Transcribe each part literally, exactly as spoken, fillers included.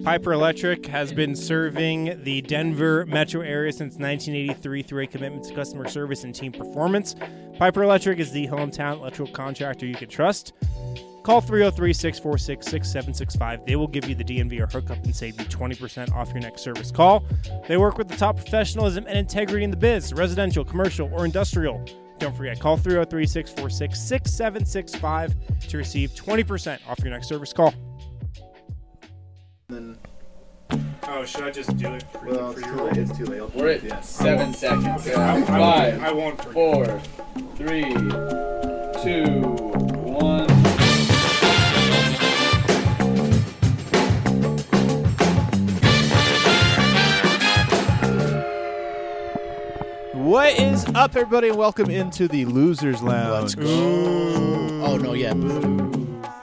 Piper Electric has been serving the Denver metro area since nineteen eighty-three through a commitment to customer service and team performance. Piper Electric is the hometown electrical contractor you can trust. Call three oh three, six four six, six seven six five. They will give you the D M V or hookup and save you twenty percent off your next service call. They work with the top professionalism and integrity in the biz, residential, commercial, or industrial. Don't forget, call three oh three, six four six, six seven six five to receive twenty percent off your next service call. Then, oh, should I just do it for, well, for it's your too late. It's too late. I'll We're at yeah. seven seconds. I, I, Five, I won't forget. four, three, two, one. What is up, everybody, and welcome into the Losers Lounge. Oh, no, yeah. Boo.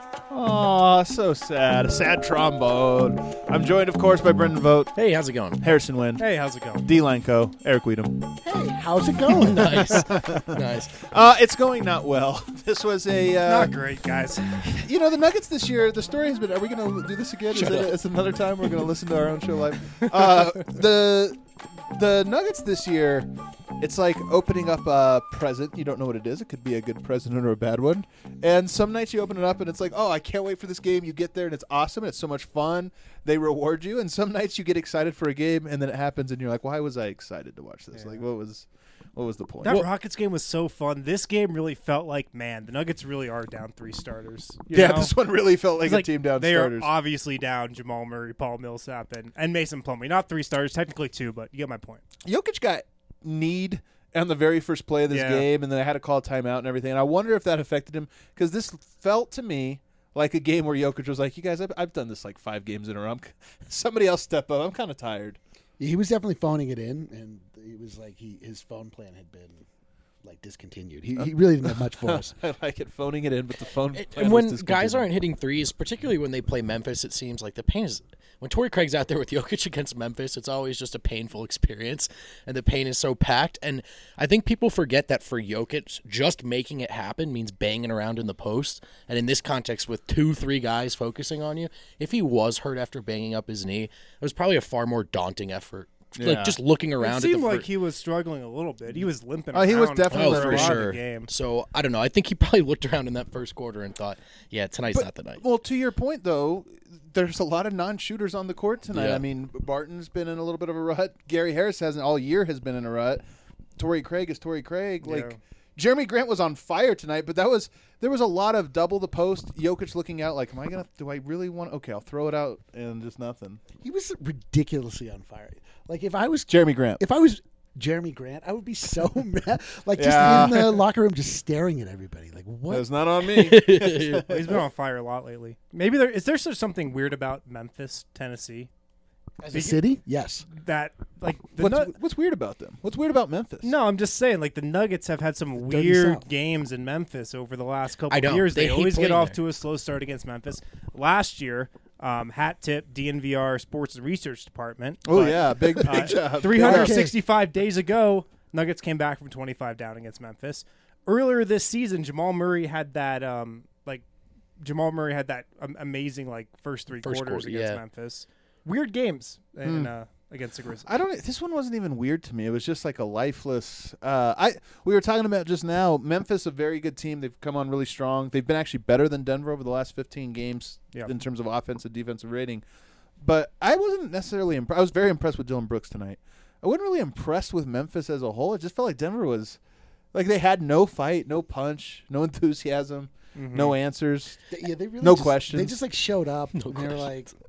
Aw, so sad. A sad trombone. I'm joined, of course, by Brendan Vogt, Hey, how's it going? Harrison Wynn, Hey, how's it going? D. Lanco, Eric Weedham. Hey, how's it going? Nice. Nice. Uh, it's going not well. This was a, uh, Not great, guys. you know, the Nuggets this year, the story has been, are we going to do this again? Is Shut it, up. it's another time we're going to listen to our own show live? Uh, the, the Nuggets this year, it's like opening up a present. You don't know what it is. It could be a good present or a bad one. And some nights you open it up and it's like, oh, I can't wait for this game. You get there and it's awesome. And it's so much fun. They reward you. And some nights you get excited for a game and then it happens and you're like, why was I excited to watch this? Yeah. Like, what was what was the point? That Well, Rockets game was so fun. This game really felt like, man, the Nuggets really are down three starters. You yeah, know? this one really felt like It's a like team down they starters. are obviously down Jamal Murray, Paul Millsap, and, and Mason Plumlee. Not three starters, technically two, but you get my point. Jokic got need on the very first play of this Yeah. game, and then I had to call a timeout and everything. And I wonder if that affected him, because this felt to me like a game where Jokic was like, you guys, I've, I've done this like five games in a row. I'm, somebody else step up. I'm kind of tired. He was definitely phoning it in, and it was like he his phone plan had been like discontinued. He, he really didn't have much for us. I like it, phoning it in, but the phone And, plan and was when discontinued. guys aren't hitting threes, particularly when they play Memphis, it seems like the pain is when Torrey Craig's out there with Jokic against Memphis, it's always just a painful experience, and the pain is so packed. And I think people forget that for Jokic, just making it happen means banging around in the post. And in this context, with two, three guys focusing on you, if he was hurt after banging up his knee, it was probably a far more daunting effort. Yeah. Like just looking around It at the seemed like fir- he was struggling a little bit. He was limping Oh, he was around definitely Oh, for for a lot of sure. the game. So I don't know. I think he probably looked around in that first quarter and thought, "Yeah, tonight's But- not the night." Well, to your point, though, there's a lot of non-shooters on the court tonight. Yeah. I mean, Barton's been in a little bit of a rut. Gary Harris hasn't all year has been in a rut. Torrey Craig is Torrey Craig. Like Yeah. Jeremy Grant was on fire tonight, but that was there was a lot of double the post. Jokic looking out like, am I gonna? Do I really want? Okay, I'll throw it out and just nothing. He was ridiculously on fire. Like if I was Jeremy Grant. if I was Jeremy Grant, I would be so mad. Like just Yeah. in the locker room, just staring at everybody. Like what? That's not on me. Well, he's been on fire a lot lately. Maybe there is there sort of something weird about Memphis, Tennessee, As a city? Yes. that like the what's, Nu- what's weird about them? What's weird about Memphis? No, I'm just saying, like the Nuggets have had some Dirty weird South. games in Memphis over the last couple I of know. years. They They, hate always get playing off there. to a slow start against Memphis. Last year, um, hat tip D N V R Sports Research Department. Oh but, yeah, big big uh, job. three hundred sixty-five days ago, Nuggets came back from twenty-five down against Memphis. Earlier this season, Jamal Murray had that um, like Jamal Murray had that um, amazing like first three First quarters quarter, against yeah. Memphis. Weird games in, Hmm. uh, against the Grizzlies. I don't. This one wasn't even weird to me. It was just like a lifeless. Uh, I we were talking about just now. Memphis, a very good team. They've come on really strong. They've been actually better than Denver over the last fifteen games Yeah. in terms of offensive defensive rating. But I wasn't necessarily. Imp- I was very impressed with Dylan Brooks tonight. I wasn't really impressed with Memphis as a whole. It just felt like Denver was, like they had no fight, no punch, no enthusiasm, Mhm. no answers. They- yeah, they really No just, questions. They just like showed up No and they were like, questions.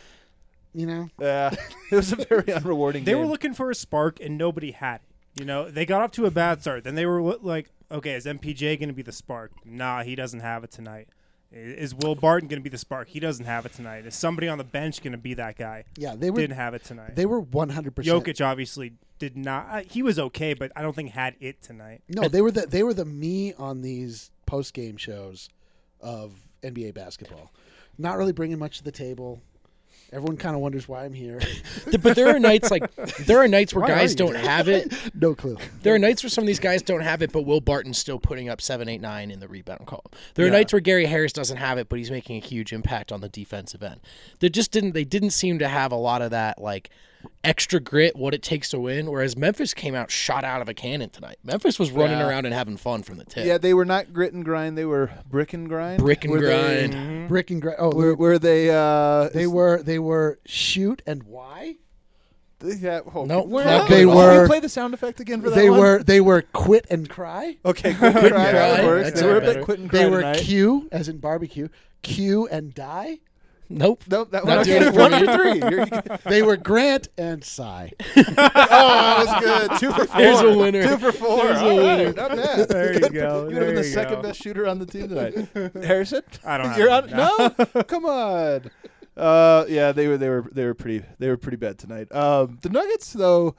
you know, Yeah, it was a very unrewarding They game. were looking for a spark, and nobody had it. You know, they got off to a bad start. Then they were li- like, okay, is M P J going to be the spark? Nah, he doesn't have it tonight. I- Is Will Barton going to be the spark? He doesn't have it tonight. Is somebody on the bench going to be that guy? yeah, they were Didn't have it tonight. they were one hundred percent. Jokic obviously did not. Uh, he was okay, but I don't think had it tonight. No, they were the they were the me on these post game shows of N B A basketball. Not really bringing much to the table. Everyone kind of wonders why I'm here. But there are nights like there are nights where Why are guys you don't have it. No clue. There are nights where some of these guys don't have it, but Will Barton's still putting up seven, eight, nine in the rebound column. There are Yeah. nights where Gary Harris doesn't have it, but he's making a huge impact on the defensive end. They just didn't. They didn't seem to have a lot of that like extra grit, what it takes to win. Whereas Memphis came out shot out of a cannon tonight. Memphis was running Yeah. around and having fun from the tip. Yeah, they were not grit and grind. They were brick and grind. Brick and Were they- grind. Brick and gra- oh, Were, were they? Uh, they were they were shoot and why? Yeah, oh, No, can- we're can not you- They can you were- play the sound effect again for that They one? were they were quit and cry. Okay, quit and cry. That cry. works. That's They were a better. bit quit and cry They were tonight. Q as in barbecue. Q and die. Nope. Nope, that Not one. doing it for One you. for three. You're- you- They were Grant and Sigh. oh, that was good. Two for four. There's a winner. Two for four. There's a All winner. right, not bad. There you Good. go. You would have There been the you second go. best shooter on the team tonight. Harrison, I don't have You're it. on. No, come on. Uh, yeah, they were. They were. They were pretty. They were pretty bad tonight. Um, the Nuggets, though.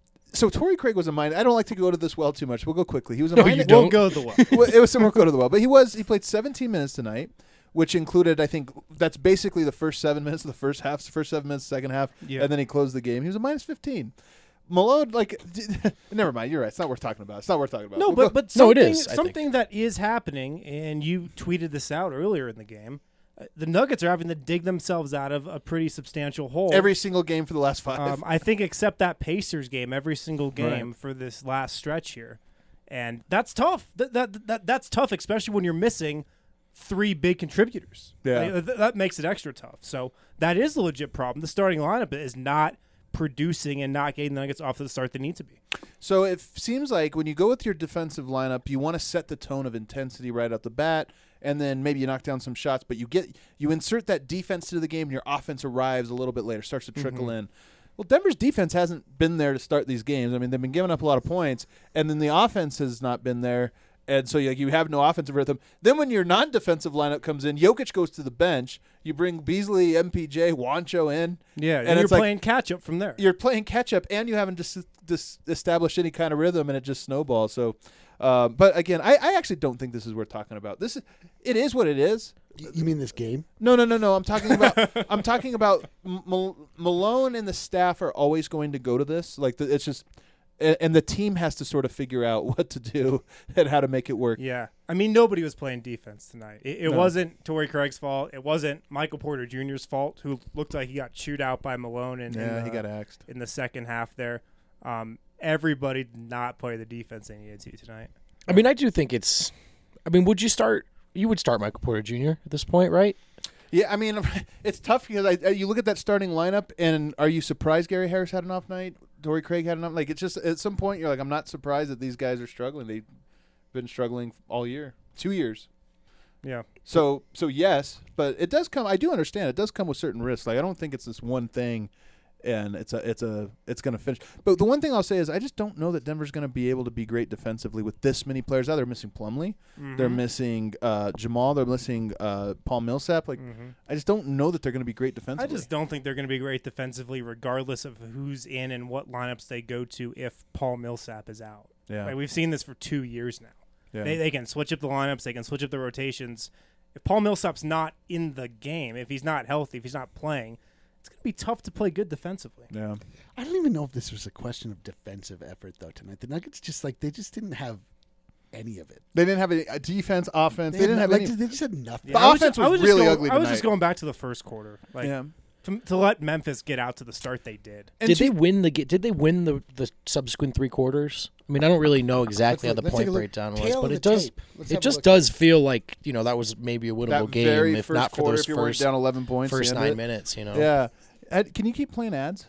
So Torrey Craig was a minus. I don't like to go to this well too much. We'll go quickly. He was a No, minus. you don't. We'll go the well. Well, it was similar go to the well, but he was. He played seventeen minutes tonight, which included, I think, that's basically the first seven minutes of the first half, the first seven minutes, of the second half, Yeah. and then he closed the game. He was a minus fifteen. Malone, like, never mind. You're right. It's not worth talking about. It's not worth talking about. No, We'll but go- but No, it something, is, I think. something that is happening, and you tweeted this out earlier in the game. uh, The Nuggets are having to dig themselves out of a pretty substantial hole. every single game for the last five. um, I think, except that Pacers game, every single game Right. for this last stretch here, and that's tough. That, that that that's tough, especially when you're missing three big contributors. Yeah. Like, th- that makes it extra tough. So that is a legit problem. The starting lineup is not producing and not getting the Nuggets off to the start they need to be. So it f- seems like when you go with your defensive lineup, you want to set the tone of intensity right out the bat, and then maybe you knock down some shots, but you get you insert that defense to the game, and your offense arrives a little bit later, starts to trickle Mm-hmm. in. Well, Denver's defense hasn't been there to start these games. I mean, they've been giving up a lot of points, and then the offense has not been there. And so you, you have no offensive rhythm. Then when your non-defensive lineup comes in, Jokic goes to the bench. You bring Beasley, M P J, Juancho in. Yeah, And and, it's you're like- playing catch up from there. You're playing catch-up, and you haven't dis- dis- established any kind of rhythm, and it just snowballs. So, uh, but again, I, I actually don't think this is worth talking about. This is, it is what it is. Y- You mean this game? No, no, no, no. I'm talking about. I'm talking about M- Mal- Malone and the staff are always going to go to this. Like the, it's just, and, and the team has to sort of figure out what to do and how to make it work. Yeah. I mean, nobody was playing defense tonight. It, it No. wasn't Torrey Craig's fault. It wasn't Michael Porter Junior's fault, who looked like he got chewed out by Malone in, Yeah, in, he the, got axed. in the second half there. Um, everybody did not play the defense they needed to tonight. I mean, I do think it's. I mean, would you start? You would start Michael Porter Junior at this point, right? Yeah, I mean, it's tough because I, you look at that starting lineup, and are you surprised Gary Harris had an off night? Torrey Craig had an off. Like it's just at some point you're like, I'm not surprised that these guys are struggling. They've been struggling all year, two years. Yeah. So, so yes, but it does come. I do understand it does come with certain risks. Like I don't think it's this one thing, and it's a, it's a, it's going to finish. But the one thing I'll say is I just don't know that Denver's going to be able to be great defensively with this many players out. They're missing Plumlee, they're missing uh, Jamal, they're missing uh, Paul Millsap. Like I just don't know that they're going to be great I defensively. just don't think they're going to be great defensively, regardless of who's in and what lineups they go to if Paul Millsap is out. Yeah. Like, we've seen this for two years now. Yeah. They, they can switch up the lineups. They can switch up the rotations. If Paul Millsap's not in the game, if he's not healthy, if he's not playing, it's going to be tough to play good defensively. yeah. I don't even know if this was a question of defensive effort though tonight. The Nuggets just like they just didn't have any of it. They didn't have any uh, defense, offense. They, had didn't no- have like, any. They just had nothing. The I offense just- I was just really going- ugly I was tonight. just going back to the first quarter. Like, yeah. to, to let Memphis get out to the start they did. And did she- they win the? ga- Did they win the the subsequent three quarters? I mean, I don't really know exactly how Let's the look- let's take point a look. breakdown was, Tail but of it the does. tape. Let's have It a just look. does feel like you know that was maybe a winnable that game very if first not for quarter, those if you weren't first down eleven points, first the end nine of it. minutes. You know. Yeah. Ed, can you keep playing ads?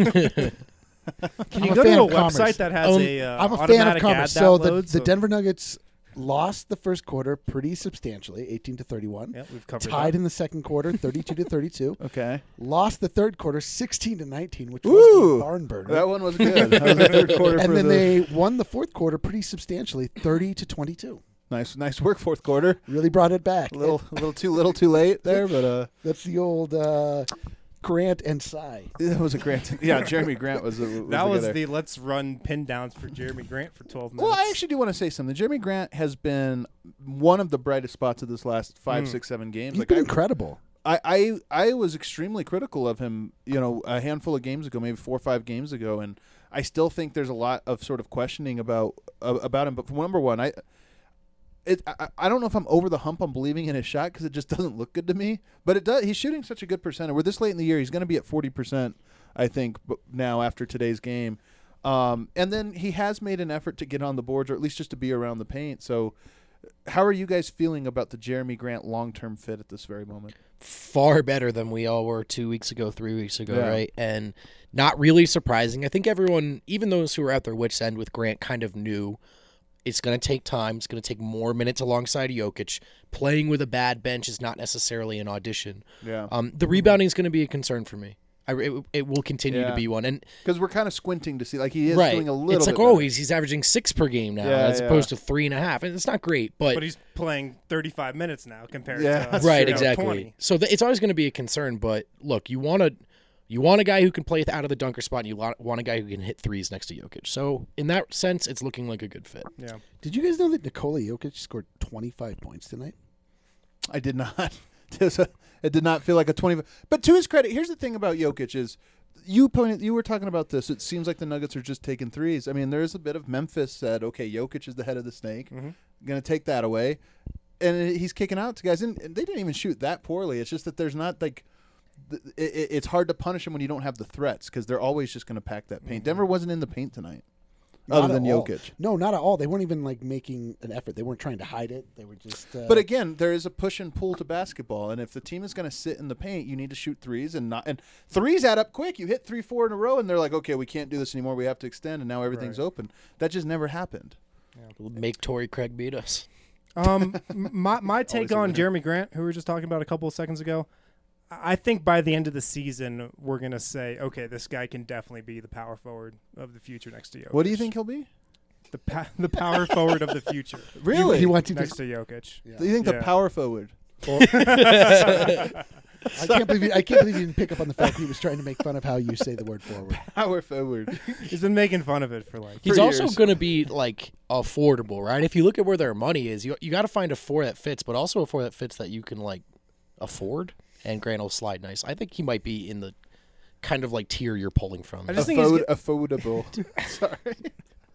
Can I'm you a go fan to a of commerce. website that has Um, a uh, I'm a fan of automatic commerce. ad So the, download? the Denver Nuggets lost the first quarter pretty substantially, eighteen to thirty-one. Yeah, we've covered Tied that. in the second quarter, thirty-two to thirty-two. Okay. Lost the third quarter, sixteen to nineteen, which Ooh, was a barn burner. That one was good. That was the third quarter for and then the they won the fourth quarter pretty substantially, thirty to twenty-two. nice, nice work. Fourth quarter. Really brought it back. A little, a little too little, too late there, but uh, That's the old uh, Grant and Cy. that was a Grant. Yeah, Jeremy Grant was. The, was That the was guy there. the let's run pin downs for Jeremy Grant for twelve minutes. Well, I actually do want to say something. Jeremy Grant has been one of the brightest spots of this last five, Mm. six, seven games. He's Like been I, incredible. I, I I was extremely critical of him, you know, a handful of games ago, maybe four or five games ago, and I still think there's a lot of sort of questioning about uh, about him. But for number one, I it I, I don't know if I'm over the hump on believing in his shot because it just doesn't look good to me. But it does. He's shooting such a good percentage. We're this late in the year. He's going to be at forty percent, I think, now after today's game. Um, and then he has made an effort to get on the boards, or at least just to be around the paint. So how are you guys feeling about the Jeremy Grant long-term fit at this very moment? Far better than we all were two weeks ago, three weeks ago, Yeah. right? And not really surprising. I think everyone, even those who were at their wits' end with Grant, kind of knew it's going to take time. It's going to take more minutes alongside Jokic. Playing with a bad bench is not necessarily an audition. Yeah. Um, the rebounding is going to be a concern for me. I, it, it will continue Yeah. to be one. And Because we're kind of squinting to see, like he is right, doing a little it's like, bit oh, better. he's, he's averaging six per game now, Yeah, as yeah. opposed to three and a half. And it's not great, but, But he's playing thirty-five minutes now compared Yeah, to that's right, you know, exactly. twenty. So th- it's always going to be a concern. But look, you want to you want a guy who can play out of the dunker spot, and you want want a guy who can hit threes next to Jokic. So in that sense, it's looking like a good fit. Yeah. Did you guys know that Nikola Jokic scored twenty-five points tonight? I did not. It was a- it did not feel like a twenty. But to his credit, here's the thing about Jokic is you pointed, you were talking about this. It seems like the Nuggets are just taking threes. I mean, there's a bit of Memphis said, okay, Jokic is the head of the snake. Mm-hmm. Going to take that away. And he's kicking out to guys. And and they didn't even shoot that poorly. It's just that there's not like th- it, it- it's hard to punish them when you don't have the threats because they're always just going to pack that paint. Denver wasn't in the paint tonight. Not Other at than all. Jokic. No, not at all. They weren't even like making an effort. They weren't trying to hide it. They were just. Uh, But again, there is a push and pull to basketball, and if the team is going to sit in the paint, you need to shoot threes and not. And threes add up quick. You hit three, four in a row, and they're like, "Okay, we can't do this anymore. We have to extend." And now everything's Right. open. That just never happened. Make Torrey Craig beat us. Um, m- my my take Always a on winner. Jeremy Grant, who we were just talking about a couple of seconds ago, I think by the end of the season, we're gonna say, okay, this guy can definitely be the power forward of the future next to Jokic. What do you think he'll be? The pa- the power forward of the future Really? he wants to next just. to Jokic. Yeah. Do you think the Yeah. power forward? I can't believe. You, I can't believe you didn't pick up on the fact he was trying to make fun of how you say the word forward. Power forward. He's been making fun of it for like. He's For also years. going to be like affordable, right? If you look at where their money is, you you got to find a four that fits, but also a four that fits that you can like afford. And Grant will slide nice. I think he might be in the kind of like tier you're pulling from. I just think he's Afford- get- affordable.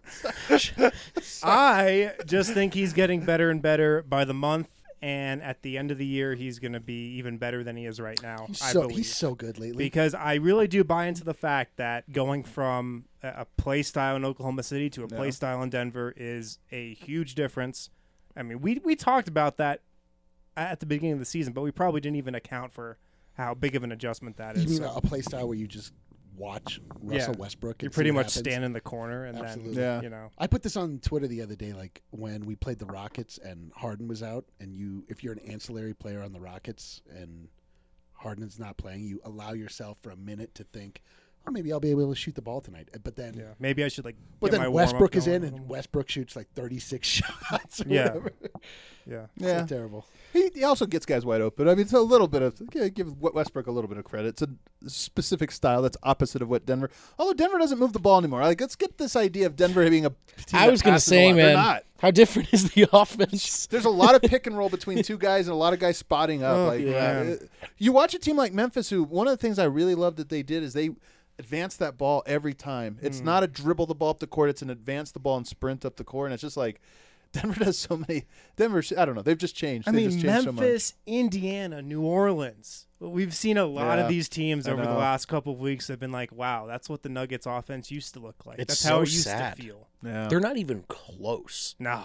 Sorry. I just think he's getting better and better by the month, and at the end of the year, he's going to be even better than he is right now. He's I so believe. he's so good lately. Because I really do buy into the fact that going from a, a play style in Oklahoma City to a Yeah. play style in Denver is a huge difference. I mean, we we talked about that at the beginning of the season, but we probably didn't even account for how big of an adjustment that You is. mean So a play style where you just watch Russell Yeah. Westbrook? you and see pretty what much happens? stand in the corner and Absolutely. then, Yeah. you know. I put this on Twitter the other day, like when we played the Rockets and Harden was out, and you, if you're an ancillary player on the Rockets and Harden's not playing, you allow yourself for a minute to think, oh, maybe I'll be able to shoot the ball tonight. But then, Yeah, maybe I should like. but get my then warm-up Westbrook is going in, a and little. Westbrook shoots like thirty-six shots. Or Yeah. whatever. Yeah, Yeah. So terrible. He, he also gets guys wide open. I mean, it's a little bit of yeah, give Westbrook a little bit of credit. It's a specific style that's opposite of what Denver. Although Denver doesn't move the ball anymore. Like, let's get this idea of Denver being a. Team I that was going to passes a say, lot. They're man, not. how different is the offense? There's a lot of pick and roll between two guys and a lot of guys spotting up. Oh, like yeah. uh, you watch a team like Memphis, who one of the things I really love that they did is they advance that ball every time. Mm. It's not a dribble the ball up the court; it's an advance the ball and sprint up the court. And it's just like Denver does so many. Denver, I don't know. They've just changed. I They've mean, just changed so much. Memphis, Indiana, New Orleans. We've seen a lot Yeah, of these teams I over the know. last couple of weeks have been like, wow, that's what the Nuggets offense used to look like. It's That's so how it used sad. to feel. Yeah. They're not even close. No.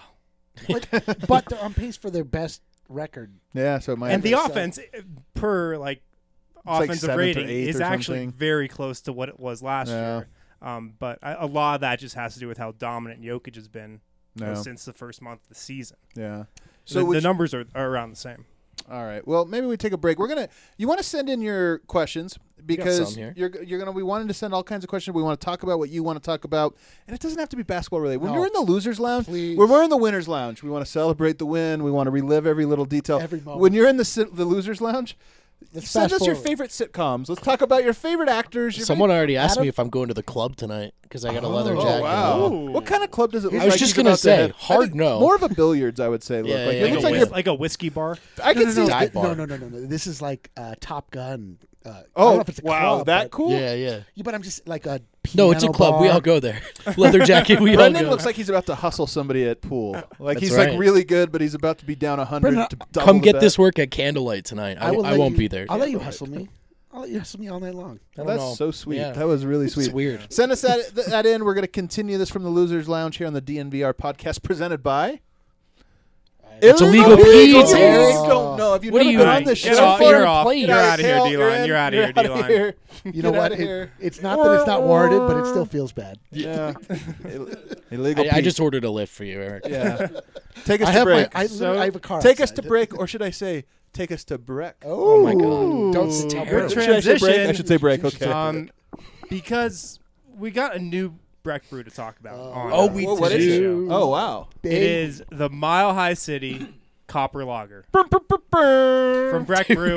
But, but they're on pace for their best record. Yeah, so it might And the be- so- offense, eh, per like like offensive seventh or rating, eighth is or actually something. very close to what it was last Yeah. year. Um, but I, a lot of that just has to do with how dominant Jokic has been you know, No. since the first month of the season. Yeah. So So the, would the you- numbers are, are around the same. all right. Well, maybe we take a break. We're gonna. You want to send in your questions because some here. you're you're gonna. We wanted to send all kinds of questions. We want to talk about what you want to talk about, and it doesn't have to be basketball related. When No. you're in the losers lounge, Please. when we're in the winners lounge, we want to celebrate the win. We want to relive every little detail. Every moment. When you're in the si- the losers lounge, Let's Send fast us your forward. favorite sitcoms. Let's talk about your favorite actors. Your Someone favorite- already asked Adam? me if I'm going to the club tonight because I got a leather Oh, jacket. wow. Ooh. What kind of club does it look I was like? just he's gonna about to say, hit? hard I think no. More of a billiards, I would say. Look Yeah, like yeah, it Like, yeah. looks a like whis- you're. like a whiskey bar. I No, can no, see. no, Dive thi- bar. no, no, no, no. This is like uh, Top Gun. Uh, I don't Oh know if it's a wow, club, that but- cool. Yeah, yeah. Yeah, but I'm just like a No, it's a piano club. We bar. all go there. Leather jacket. We all Brendan go. looks like he's about to hustle somebody at pool. Like That's he's right. like really good, but he's about to be down a hundred. Brendan, to double Come the get bet. this work at candlelight tonight. I, I, will I let won't you- be there. I'll let you hustle me. I'll let you hustle me all night long. I don't That's know. so sweet. Yeah. That was really sweet. It's weird. Send us that, that in. We're going to continue this from the Losers Lounge here on the D N V R podcast presented by. It's illegal Illegal peas, Peas. Eric. Don't know. Have you What never are you been doing? on this Get show off, before? you're off. Play You're your- out of here, Hell, D-line. in. You're out of here, You're outta D-line. here. You know Get what? outta It- here. it's not that it's not warranted, but it still feels bad. Yeah. Ill- Illegal I, I Peas. just ordered a lift for you, Eric. Yeah. Take us I to have my. break. I, So- literally- I have a car. Take us to outside. break, or should I say, take us to break? Oh, my God. Don't Ooh, stop. good Should I say break? I transition. should say break. Okay. Um, because we got a new Breck brew to talk about. on, Oh, uh, we Well, what is do. it? Oh wow. It is the Mile High City Copper Lager From from Breck Brew.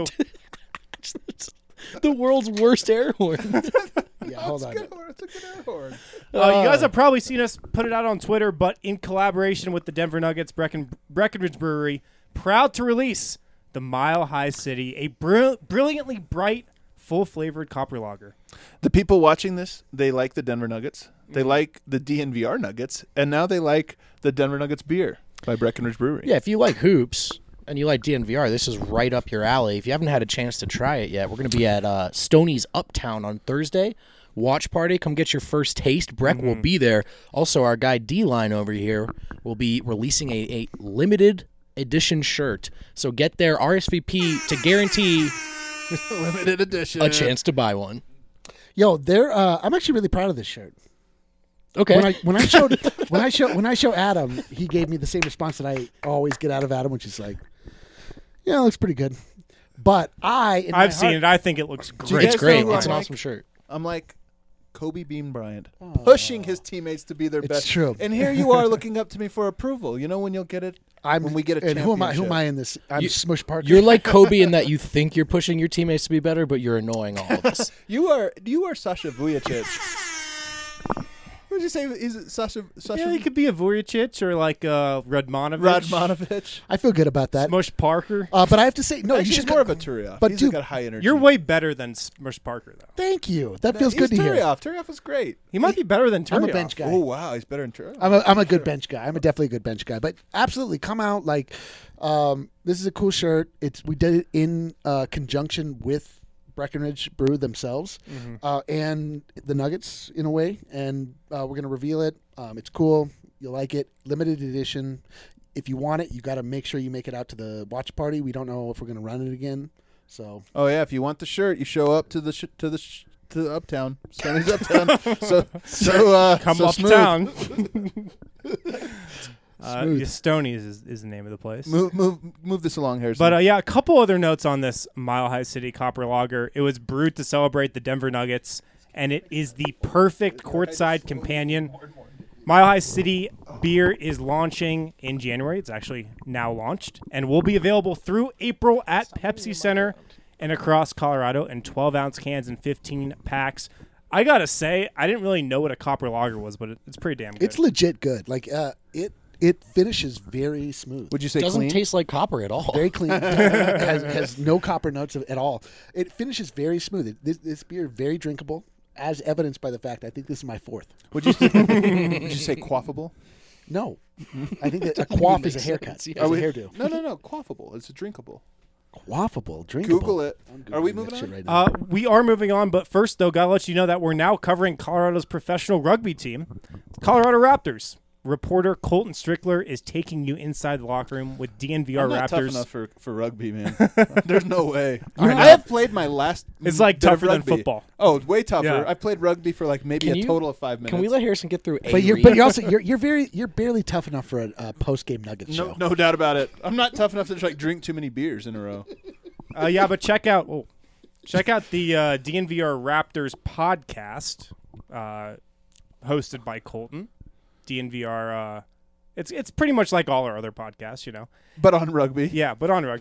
The world's worst air horn. Yeah, hold on. It's a good air horn. Uh, you guys have probably seen us put it out on Twitter, but in collaboration with the Denver Nuggets Brecken, Breckenridge Brewery, proud to release the Mile High City, a br- brilliantly bright, full-flavored copper lager. The people watching this, they like the Denver Nuggets. They like the D N V R Nuggets, and now they like the Denver Nuggets beer by Breckenridge Brewery. Yeah, if you like hoops and you like D N V R, this is right up your alley. If you haven't had a chance to try it yet, we're going to be at uh, Stoney's Uptown on Thursday. Watch party. Come get your first taste. Breck will be there. Also, our guy D-Line over here will be releasing a, a limited edition shirt. So get there, R S V P, to guarantee Limited edition. a chance to buy one. Yo, there. Uh, I'm actually really proud of this shirt. Okay. When I when I showed when I show when I show Adam, he gave me the same response that I always get out of Adam, which is like, "Yeah, it looks pretty good." But I, in my I've seen heart- it. I think it looks you great. guys it's great. know who It's an I'm awesome like? shirt. I'm like Kobe Bean Bryant, pushing his teammates to be their It's best. true. And here you are looking up to me for approval. You know when you'll get it? I'm when we get a and who am I? Who am championship. I in this? I'm You- Smush Parker. You're like Kobe in that you think you're pushing your teammates to be better, but you're annoying all of us. You are you are Sasha Vujacic. What did you say? Is it Sasha Sasha Yeah, he could be a Vujicic or like uh, Radmanovic. Radmanovic? I feel good about that. Smush Parker. Uh, but I have to say, no, Actually, you he's should more of a Turioff. But he's dude, got high energy. You're way better than Smush Parker, though. Thank you. That feels good to he's hear. Turioff. Turioff is great. He might be better than I'm a Turioff. bench guy. Oh wow, he's better than Turioff. I'm a I'm a good bench guy. I'm a definitely a good bench guy. But absolutely, come out like um, this is a cool shirt. It's we did it in uh, conjunction with Breckenridge Brew themselves uh, and the Nuggets in a way, and uh, we're gonna reveal it. Um, it's cool. You'll like it. Limited edition. If you want it, you got to make sure you make it out to the watch party. We don't know if we're gonna run it again. So Oh yeah, if you want the shirt, you show up to the sh- to the sh- to the Uptown. Stoney's Uptown. so so uh, Come so smooth. uptown. uh, Smooth. yeah, Stoney's is, is the name of the place. Move move move this along, Harrison. But uh, yeah, a couple other notes on this Mile High City Copper Lager. It was brewed to celebrate the Denver Nuggets, and it is the perfect courtside companion. Mile High City beer is launching in January. It's actually now launched and will be available through April at Pepsi Center and across Colorado in twelve ounce cans and fifteen packs. I gotta say, I didn't really know what a copper lager was, but it, it's pretty damn good. it's legit good. Like uh, it it finishes very smooth. would you say Doesn't clean? taste like copper at all. Very clean. has, has no copper notes at all. It finishes very smooth. It, this, this beer very drinkable, as evidenced by the fact I think this is my fourth. Would you would you say quaffable? No, I think that a quaff is a makes haircut. sense, It's yeah. a we- hairdo. No no no, quaffable. It's drinkable. Quaffable, drinkable. Google it. I'm Are we Googling moving that shit on? right now. Uh, we are moving on, but first, though, gotta let you know that we're now covering Colorado's professional rugby team, Colorado Raptors. Reporter Colton Strickler is taking you inside the locker room with D N V R I'm not tough Raptors. enough for, for rugby, man. There's no way. You're I not. have played my last. It's like bit of tougher than rugby. football. Oh, way tougher. Yeah. I played rugby for like maybe Can a you- total of five minutes. Can we let Harrison get through a but you're read? but you're also you're you're very you're barely tough enough for a uh, post game Nuggets No, show. no doubt about it. I'm not tough enough to just like drink too many beers in a row. Uh, yeah, but check out oh, check out the uh, D N V R Raptors podcast, uh, hosted by Colton. D N V R. Uh, it's it's pretty much like all our other podcasts, you know. But on rugby, Yeah, but on rugby.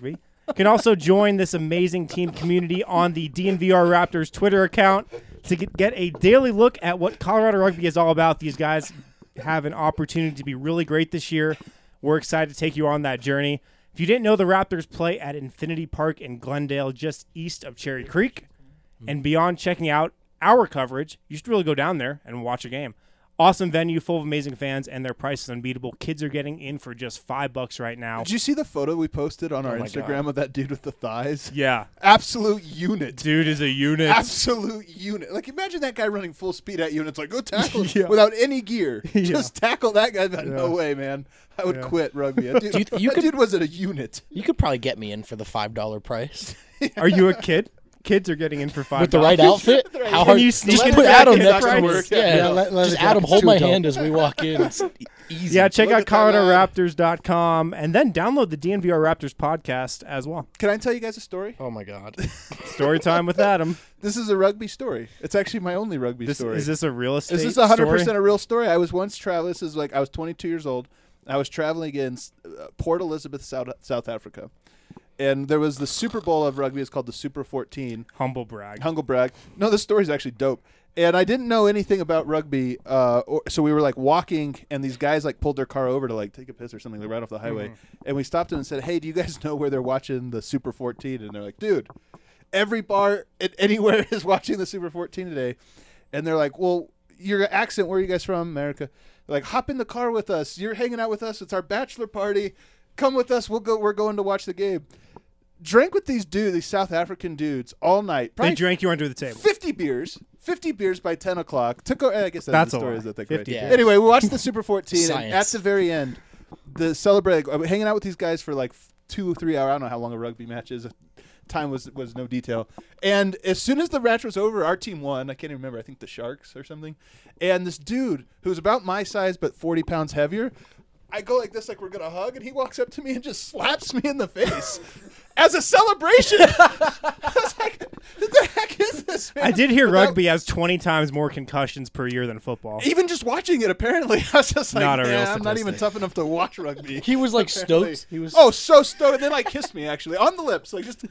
You can also join this amazing team community on the D N V R Raptors Twitter account to get, get a daily look at what Colorado rugby is all about. These guys have an opportunity to be really great this year. We're excited to take you on that journey. If you didn't know, the Raptors play at Infinity Park in Glendale, just east of Cherry Creek. And beyond checking out our coverage, you should really go down there and watch a game. Awesome venue, full of amazing fans, and their price is unbeatable. Kids are getting in for just five bucks right now. Did you see the photo we posted on our my Instagram God. of that dude with the thighs? Yeah. Absolute unit. Dude is a unit. Absolute unit. Like, imagine that guy running full speed at you, and it's like, go tackle him Yeah. without any gear. Yeah. Just tackle that guy. But No Yeah. way, man. I would Yeah. quit rugby. That dude, Do you- you that could- dude was at a unit. You could probably get me in for the five dollar price Are you a kid? Kids are getting in for five with the right outfit. Right. How Can hard? you just sneak put in Adam jacket next to price? me. Yeah, Yeah, le- leather just Adam jacket's hold too my adult. hand as we walk in. It's easy. Yeah, check Look out at that line. Colorado Raptors dot com and then download the D N V R Raptors podcast as well. Can I tell you guys a story? Oh my god. Story time with Adam. This is a rugby story. It's actually my only rugby This, story. is this a real estate Is this one hundred percent story? a real story? I was once traveling. This is like I was twenty-two years old. I was traveling in uh, Port Elizabeth, South, South Africa. And there was the Super Bowl of rugby. It's called the Super fourteen. Humble brag. Humble brag. No, this story's actually dope. And I didn't know anything about rugby, uh, or, so we were like walking, and these guys like pulled their car over to like take a piss or something, like, right off the highway. And we stopped them and said, "Hey, do you guys know where they're watching the Super fourteen?" And they're like, "Dude, every bar at anywhere is watching the Super fourteen today." And they're like, "Well, your accent, where are you guys from, America?" They're like, "Hop in the car with us. You're hanging out with us. It's our bachelor party. Come with us. We'll go. We're going to watch the game." Drank with these dudes, these South African dudes, all night. They drank you under the table. fifty beers. fifty beers by ten o'clock. Took. o- I guess that's, That's the a story. lot. Is that that fifty great? beers. Anyway, we watched the Super fourteen, and at Science. the very end, the celebrate. Like, hanging out with these guys for like f- two or three hours. I don't know how long a rugby match is. Time was was no detail. And as soon as the match was over, our team won. I can't even remember. I think the Sharks or something. And this dude who's about my size but forty pounds heavier. I go like this, like we're gonna hug, and he walks up to me and just slaps me in the face as a celebration. I was like, "What the heck is this, man?" I did hear Without- rugby has twenty times more concussions per year than football. Even just watching it, apparently, I was just like, Not a real "Man, I'm not even statistic. tough enough to watch rugby." He was like Apparently. stoked. He was. Oh, so stoked. And then like kissed me actually on the lips, like just.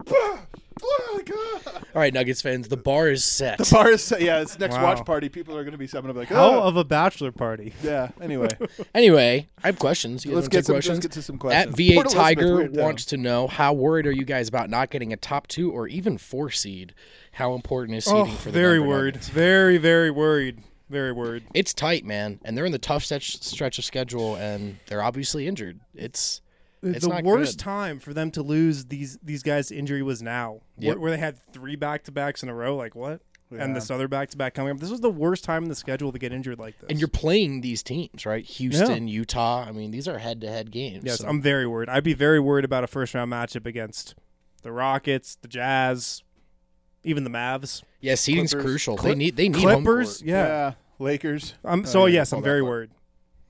Oh my god! All right, Nuggets fans, the bar is set. The bar is set. Yeah, it's next Wow. watch party. People are going to be summing up like, Hell oh, of a bachelor party. yeah. Anyway, Anyway, I have questions. You guys let's wanna get take some. questions? Let's get to some At questions. V eight Port Elizabeth, Tiger weird town. wants to know, how worried are you guys about not getting a top two or even four seed? How important is seeding Oh, for the very Denver worried. Nuggets? Very, very worried. Very worried. It's tight, man, and they're in the tough stretch stretch of schedule, and they're obviously injured. It's It's the not worst good. time for them to lose these these guys to injury was now, Yep. where, where they had three back to backs in a row. Like what? And Yeah. this other back to back coming up. This was the worst time in the schedule to get injured like this. and you're playing these teams, right? Houston, Utah. I mean, these are head to head games. yes, so- I'm very worried. I'd be very worried about a first round matchup against the Rockets, the Jazz, even the Mavs, yeah, seeding's Clippers. crucial. Clip- they need they need home Clippers. court. Yeah. Lakers. Um, Oh, so yeah, yes, pull I'm that very far. worried.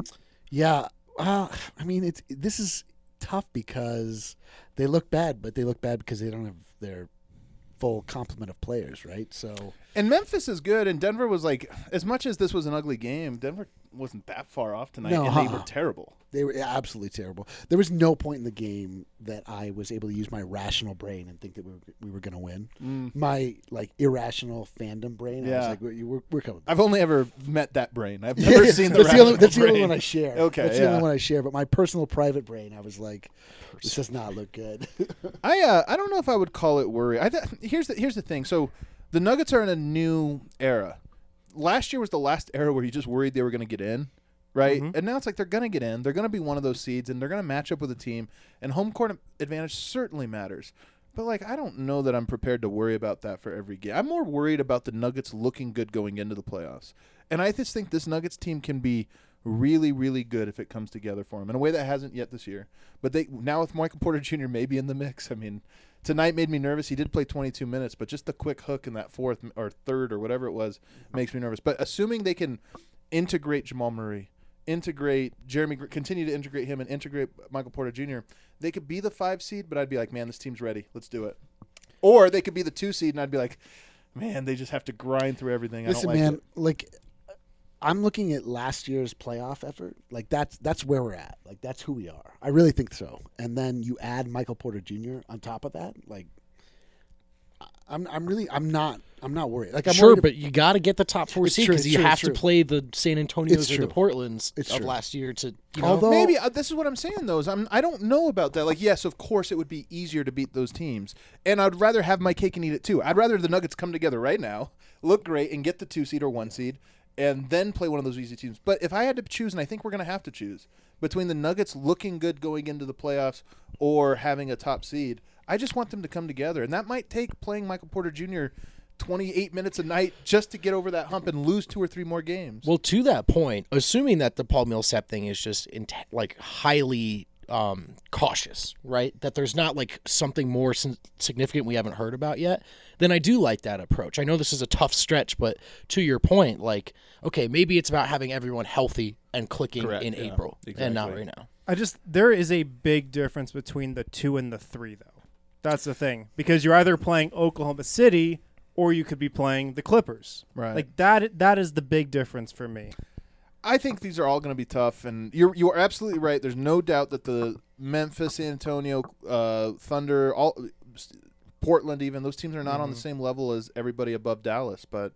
Yeah, uh, I mean, it's this is tough because they look bad, but they look bad because they don't have their full complement of players, right? So And Memphis is good, and Denver was like, as much as this was an ugly game, Denver wasn't that far off tonight, No, and they uh-uh. were terrible. they were absolutely terrible. There was no point in the game that I was able to use my rational brain and think that we were, we were going to win. Mm. My like irrational fandom brain, I Yeah. was like, we're, we're, we're coming. I've only ever met that brain. I've never seen the that's the only, rational that's the only brain. one I share. Okay, that's the yeah. only one I share. But my personal private brain, I was like, this does not look good. I uh, I don't know if I would call it worry. I th- here's the here's the thing. So the Nuggets are in a new era. Last year was the last era where you just worried they were going to get in, right? Mhm. And now it's like they're going to get in. They're going to be one of those seeds, and they're going to match up with a team. And home court advantage certainly matters. But like, I don't know that I'm prepared to worry about that for every game. I'm more worried about the Nuggets looking good going into the playoffs. And I just think this Nuggets team can be really, really good if it comes together for them in a way that hasn't yet this year. But they now with Michael Porter Junior maybe in the mix. I mean, tonight made me nervous. He did play twenty-two minutes, but just the quick hook in that fourth or third or whatever it was makes me nervous. But assuming they can integrate Jamal Murray, integrate Jeremy, Gr- continue to integrate him and integrate Michael Porter Junior, they could be the five seed, but I'd be like, man, this team's ready. Let's do it. Or they could be the two seed, and I'd be like, man, they just have to grind through everything. Listen, I don't like man, it. like I'm looking at last year's playoff effort. Like that's that's where we're at. Like that's who we are. I really think so. And then you add Michael Porter Junior on top of that. Like I'm I'm really I'm not I'm not worried. Like I'm sure, worried but you got to get the top four It's seed true, because it's you true, have it's to true. play the San Antonios It's or the true. Portlands It's of true. last year to you know. Although- Maybe uh, this is what I'm saying though. Is I'm I don't know about that. Like, yes, of course it would be easier to beat those teams, and I'd rather have my cake and eat it too. I'd rather the Nuggets come together right now, look great, and get the two seed or one seed, and then play one of those easy teams. But if I had to choose, and I think we're going to have to choose between the Nuggets looking good going into the playoffs or having a top seed, I just want them to come together, and that might take playing Michael Porter Junior twenty-eight minutes a night just to get over that hump and lose two or three more games. Well, to that point, assuming that the Paul Millsap thing is just in like highly um, cautious, right? That there's not like something more sin- significant we haven't heard about yet, then I do like that approach. I know this is a tough stretch, but to your point, like, okay, maybe it's about having everyone healthy and clicking Correct, in yeah, April and not exactly. right now. I just there is a big difference between the two and the three, though. That's the thing, because you're either playing Oklahoma City or you could be playing the Clippers. Right. Like that. That is the big difference for me. I think these are all going to be tough, and you're you are absolutely right. There's no doubt that the Memphis, San Antonio, uh, Thunder, all Portland, even those teams are not Mm-hmm. on the same level as everybody above Dallas. But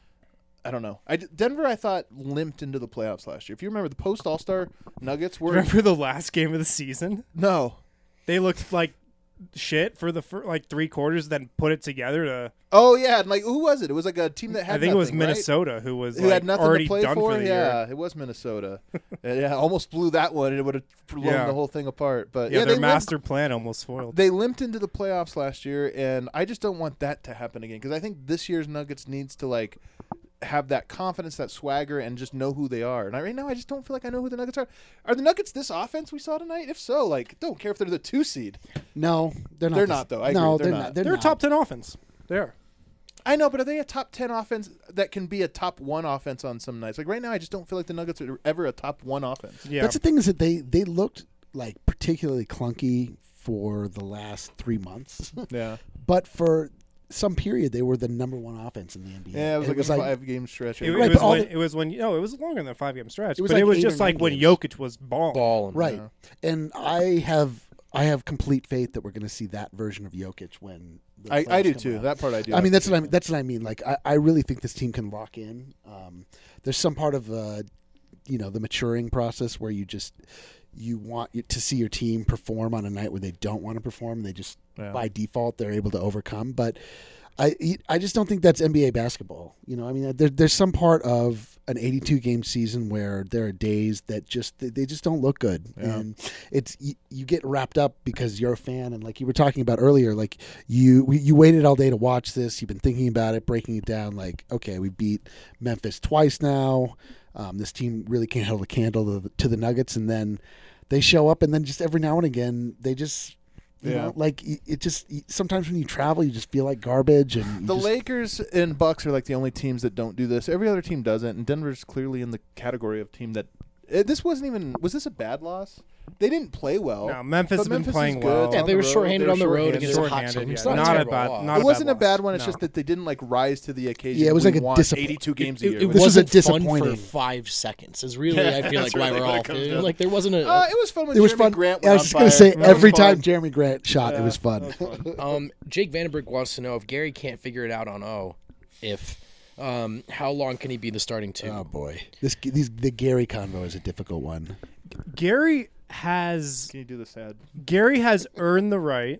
I don't know. I, Denver, I thought limped into the playoffs last year. If you remember, the post All Star Nuggets were Remember the last game of the season? no. They looked like shit for the fir- like three quarters, then put it together to. Oh yeah, and like who was it? It was like a team that had. I think it was nothing, right? Minnesota who was Who like, had nothing already to play done for. for the yeah, year. it was Minnesota. And, yeah, almost blew that one, and it would have blown Yeah. the whole thing apart. But Yeah, yeah, their they master plan almost foiled. limped, they limped into the playoffs last year, and I just don't want that to happen again because I think this year's Nuggets needs to like have that confidence, that swagger, and just know who they are. And I, right now, I just don't feel like I know who the Nuggets are. Are the Nuggets this offense we saw tonight? If so, like, don't care if they're the two seed. No, they're not. They're the- not, though. I no, agree. They're they're not. not. They're, They're a not. top ten offense. They are. I know, but are they a top ten offense that can be a top one offense on some nights? Like right now, I just don't feel like the Nuggets are ever a top one offense. Yeah. That's the thing is that they they looked like particularly clunky for the last three months, Yeah, but for some period they were the number one offense in the N B A. yeah, it was And like a five game stretch. It, it Right, was but all when, the- it was when no, it was longer than a five game stretch. It was but like it was eight just or like nine when games. Jokic was balling. Balling. Right. Yeah. And I have I have complete faith that we're going to see that version of Jokic when the I, I playoffs do come too. around. That part I do. I mean, that's what I mean. mean. That's what I mean. Like, I, I really think this team can lock in. Um, there's some part of, uh, you know, the maturing process where you just you want to see your team perform on a night where they don't want to perform. They just Yeah. by default they're able to overcome. But I I just don't think that's N B A basketball. You know, I mean, there, there's some part of an eighty-two game season where there are days that just they, they just don't look good, Yeah. and it's you, you get wrapped up because you're a fan, and like you were talking about earlier, like you we, you waited all day to watch this. You've been thinking about it, breaking it down. Like, okay, we beat Memphis twice now. Um, this team really can't hold a candle to the, to the Nuggets, and then they show up, and then just every now and again they just. You Yeah. know, like it it just sometimes when you travel, you just feel like garbage. And you The just, Lakers and Bucks are like the only teams that don't do this. Every other team doesn't, and Denver's clearly in the category of team that. Uh, this wasn't even. Was this a bad loss? They didn't play well. No, Memphis but has been Memphis is playing good. well. It's Yeah, on they the were road. shorthanded They on the were road shorthanded. against a hot Shorthanded, team. It's yeah. not, Not a a terrible bad- loss. not It a wasn't a bad bad loss. one. It's No. just that they didn't like rise to the occasion. Yeah, it was we like a want disappoint- eighty-two games a It, year. it This was a wasn't fun disappointing- for five seconds. Is really Yeah, I feel that's like why really we're what all it comes down. like there wasn't a. Uh, it was fun when It was Jeremy fun. Grant I went was on just gonna fire. say That was every fun. time Jeremy Grant shot, it Yeah, was fun. that was fun. Um, Jake Vandenberg wants to know if Gary can't figure it out on O, if um, how long can he be the starting two? Oh boy, this these the Gary convo is a difficult one. Gary has Can you do the sad? Gary has earned the right.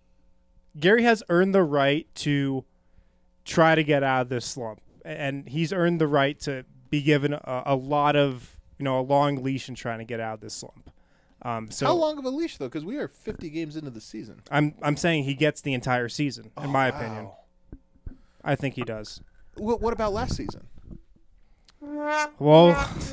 Gary has earned the right to try to get out of this slump, and he's earned the right to be given a, a lot of, you know, a long leash in trying to get out of this slump. Um, so How long of a leash though? Because we are fifty games into the season. I'm I'm saying he gets the entire season, in Oh, my wow. opinion. I think he does. What, what about last season? Well,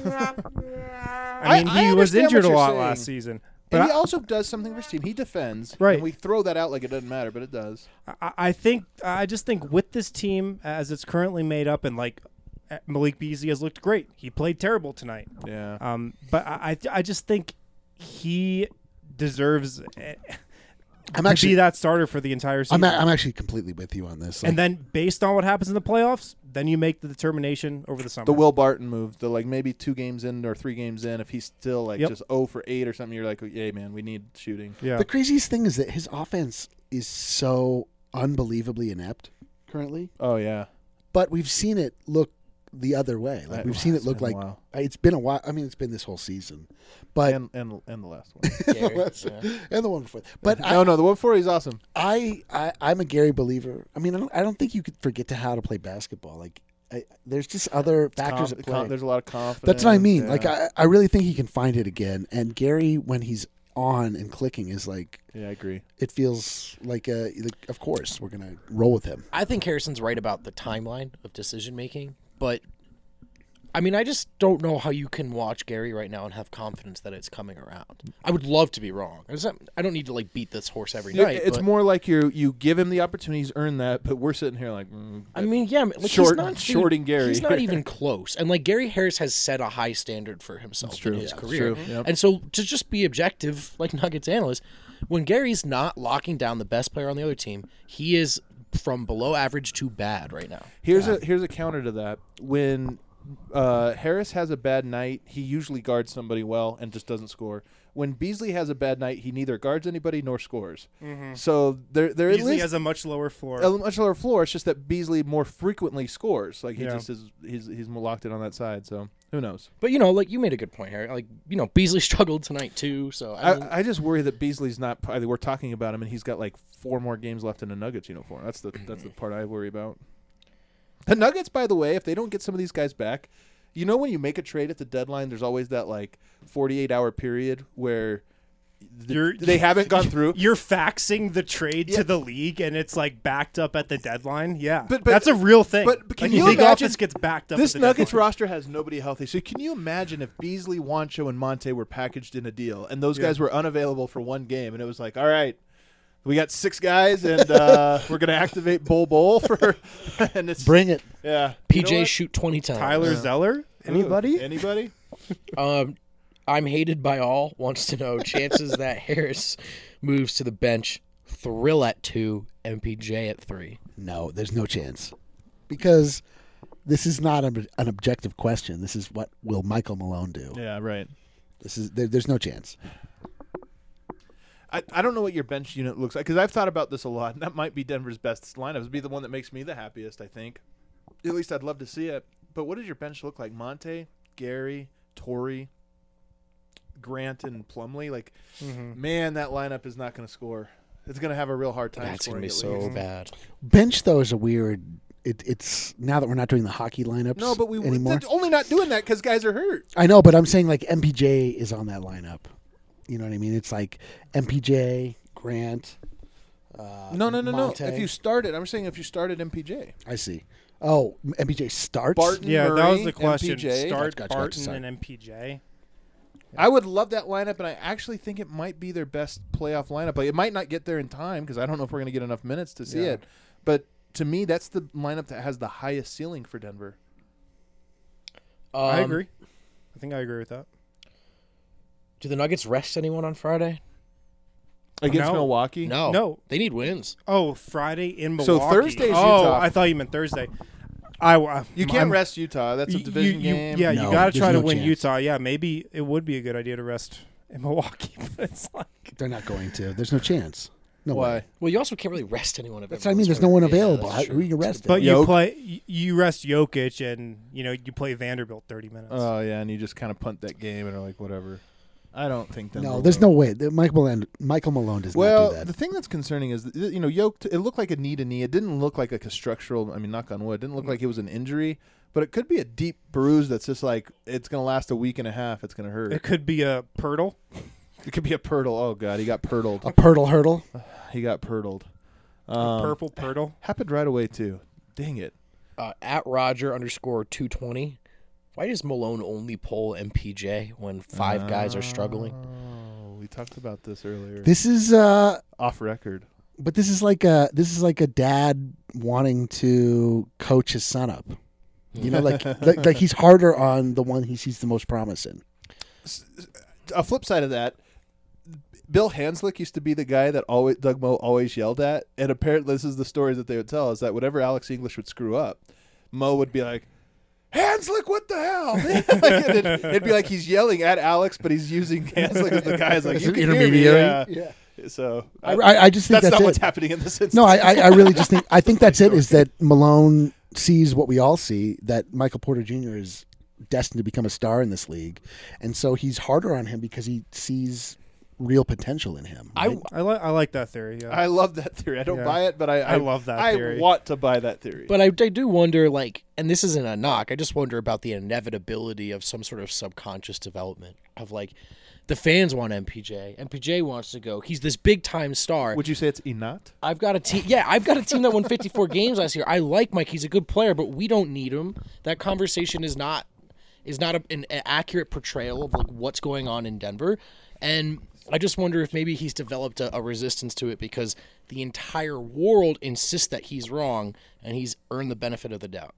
I mean, I he was understand injured what a you're lot saying. last season. But But he I, also does something for his team. He defends. Right. And we throw that out like it doesn't matter, but it does. I, I think I just think with this team as it's currently made up, and like Malik Beasley has looked great. He played terrible tonight. Yeah. Um, but I, I I just think he deserves eh, I'm to actually be that starter for the entire season. I'm a, I'm actually completely with you on this. Like, and then based on what happens in the playoffs, then you make the determination over the summer. The Will Barton move, the like maybe two games in or three games in, if he's still like Yep. just oh for eight or something, you're like, yeah, man, we need shooting. yeah. The craziest thing is that his offense is so unbelievably inept currently, Oh yeah, but we've seen it look the other way. Like Right. we've seen it It's look been a like while. it's been a while. I mean, it's been this whole season, but and and and the last one. Gary, That's- yeah. and the one before. But no, I, no, the one before he's awesome. I, I, I'm a Gary believer. I mean, I don't, I don't think you could forget to how to play basketball. Like, I, there's just other factors Conf- at play. con- there's a lot of confidence. That's what I mean. yeah. Like, I, I really think he can find it again. And Gary, when he's on and clicking, is like, yeah, I agree. it feels like, a, like of course, we're gonna roll with him. I think Harrison's right about the timeline of decision making, but I mean, I just don't know how you can watch Gary right now and have confidence that it's coming around. I would love to be wrong. It's not- I don't need to like beat this horse every Yeah, night. it's but- more like you you give him the opportunities, earn that, but we're sitting here like, mm, I mean, yeah, like Short- he's not shorting Gary. He's not even close, and like Gary Harris has set a high standard for himself That's true. in his Yeah, career. that's true. Yep. And so to just be objective, like Nuggets analyst, when Gary's not locking down the best player on the other team, he is from below average to bad right now. Here's a here's a counter to that. When uh, Harris has a bad night, he usually guards somebody well and just doesn't score. When Beasley has a bad night, he neither guards anybody nor scores. So there there Beasley is has a much lower floor. a much lower floor. It's just that Beasley more frequently scores. Like he Yeah. just is he's he's more locked in on that side. So who knows? But you know, like you made a good point, Harry. Like you know, Beasley struggled tonight too. So I, mean, I, I just worry that Beasley's not. We're talking about him, and he's got like four more games left in a Nuggets uniform. That's the that's the part I worry about. The Nuggets, by the way, if they don't get some of these guys back, you know, when you make a trade at the deadline, there's always that like forty-eight hour period where th- You're- they haven't gone through. You're faxing the trade Yeah. to the league, and it's like backed up at the deadline. Yeah, But- but- that's a real thing. but- but can like, you the league imagine- office gets backed up. This at the Nuggets deadline. roster has nobody healthy. So can you imagine if Beasley, Wancho, and Monte were packaged in a deal, and those Yeah. guys were unavailable for one game, and it was like, all right, we got six guys, and uh, we're gonna activate Bol Bol for, and it's Bring it. yeah. P You know J what? shoot twenty times. Tyler Zeller. Anybody? Ooh, anybody? Um, I'm hated by all. Wants to know chances that Harris moves to the bench. Thrill at two. M P J at three. No, there's no chance because this is not an, an objective question. This is what will Michael Malone do? Yeah, right. This is there, there's no chance. I, I don't know what your bench unit looks like because I've thought about this a lot, and that might be Denver's best lineup. It'd be the one that makes me the happiest, I think. At least I'd love to see it. But what does your bench look like? Monte, Gary, Torrey, Grant, and Plumlee? Like, Mm-hmm. man, that lineup is not going to score. It's going to have a real hard time That's gonna scoring. be at so least. bad. Bench though is a weird. It, it's now that we're not doing the hockey lineups. No, but we anymore. they're only not doing that because guys are hurt. I know, but I'm saying like M P J is on that lineup. You know what I mean? It's like M P J, Grant. Uh, No, no, no, Monte. no. If you started, I'm saying if you started M P J. I see. Oh, M P J starts. Barton, Yeah, that was Murray, the question. M P J. Start Gotcha, gotcha, Barton sorry. and M P J. I would love that lineup, and I actually think it might be their best playoff lineup. Like, it might not get there in time because I don't know if we're going to get enough minutes to see Yeah. it. But to me, that's the lineup that has the highest ceiling for Denver. I Um, agree. I think I agree with that. Do the Nuggets rest anyone on Friday? Against No. Milwaukee? No. No. They need wins. Oh, Friday in So Milwaukee. Thursday's oh, Utah. I thought you meant Thursday. I, I You can't I'm- rest Utah. That's a you- division you- game. Yeah, No, you got to there's try to no win chance. Utah. Yeah, maybe it would be a good idea to rest in Milwaukee, but it's like They're not going to. There's no chance. No Why? way. Well, you also can't really rest anyone if That's what I mean. everyone's There's no hurt. one Yeah, available. that's How, true. who are you resting? But you Joke. play, y- you rest Jokic, and you know you play Vanderbilt thirty minutes. Oh, yeah, and you just kind of punt that game and are like, whatever. I don't think Denver no, will. there's no way. The- Michael Malone, Michael Malone does Well, not do the that. thing that's concerning is, that, you know, Yoke, it looked like a knee to knee. It didn't look like, like a structural, I mean, knock on wood, it didn't look like it was an injury, but it could be a deep bruise that's just like, it's going to last a week and a half. It's going to hurt. It could be a Pirtle. It could be a Pirtle. Oh, God, he got Pirtled. A Pirtle hurdle. He got Pirtled. A Um, purple Pirtle. Happened right away, too. Dang it. Uh, at Roger underscore two twenty. Why does Malone only pull M P J when five guys are struggling? Oh, we talked about this earlier. This is uh Off record. but this is like a this is like a dad wanting to coach his son up. You know, like like, like he's harder on the one he sees the most promise in. A flip side of that, Bill Hanslick used to be the guy that always Doug Moe always yelled at, and apparently this is the stories that they would tell is that whenever Alex English would screw up, Mo would be like, Hanslick, what the hell? like, it'd, it'd be like he's yelling at Alex, but he's using Hanslick as the guy's like, As you an can hear me. intermediary. Yeah. Yeah. So I, I, I just think that's, that's, not it. what's happening in this instance. No, I, I, I really just think I think that's it. Is that Malone sees what we all see, that Michael Porter Junior is destined to become a star in this league, and so he's harder on him because he sees real potential in him. I right? I like I like that theory. Yeah. I love that theory. I don't Yeah. buy it, but I, I love that I theory. want to buy that theory. But I, I do wonder, like, and this isn't a knock. I just wonder about the inevitability of some sort of subconscious development of like, the fans want M P J. M P J wants to go. He's this big time star. Would you say it's Inat? I've got a team. Yeah, I've got a team that won fifty-four games last year. I like Mike. He's a good player, but we don't need him. That conversation is not is not a, an, an accurate portrayal of like what's going on in Denver. And I just wonder if maybe he's developed a, a resistance to it because the entire world insists that he's wrong, and he's earned the benefit of the doubt.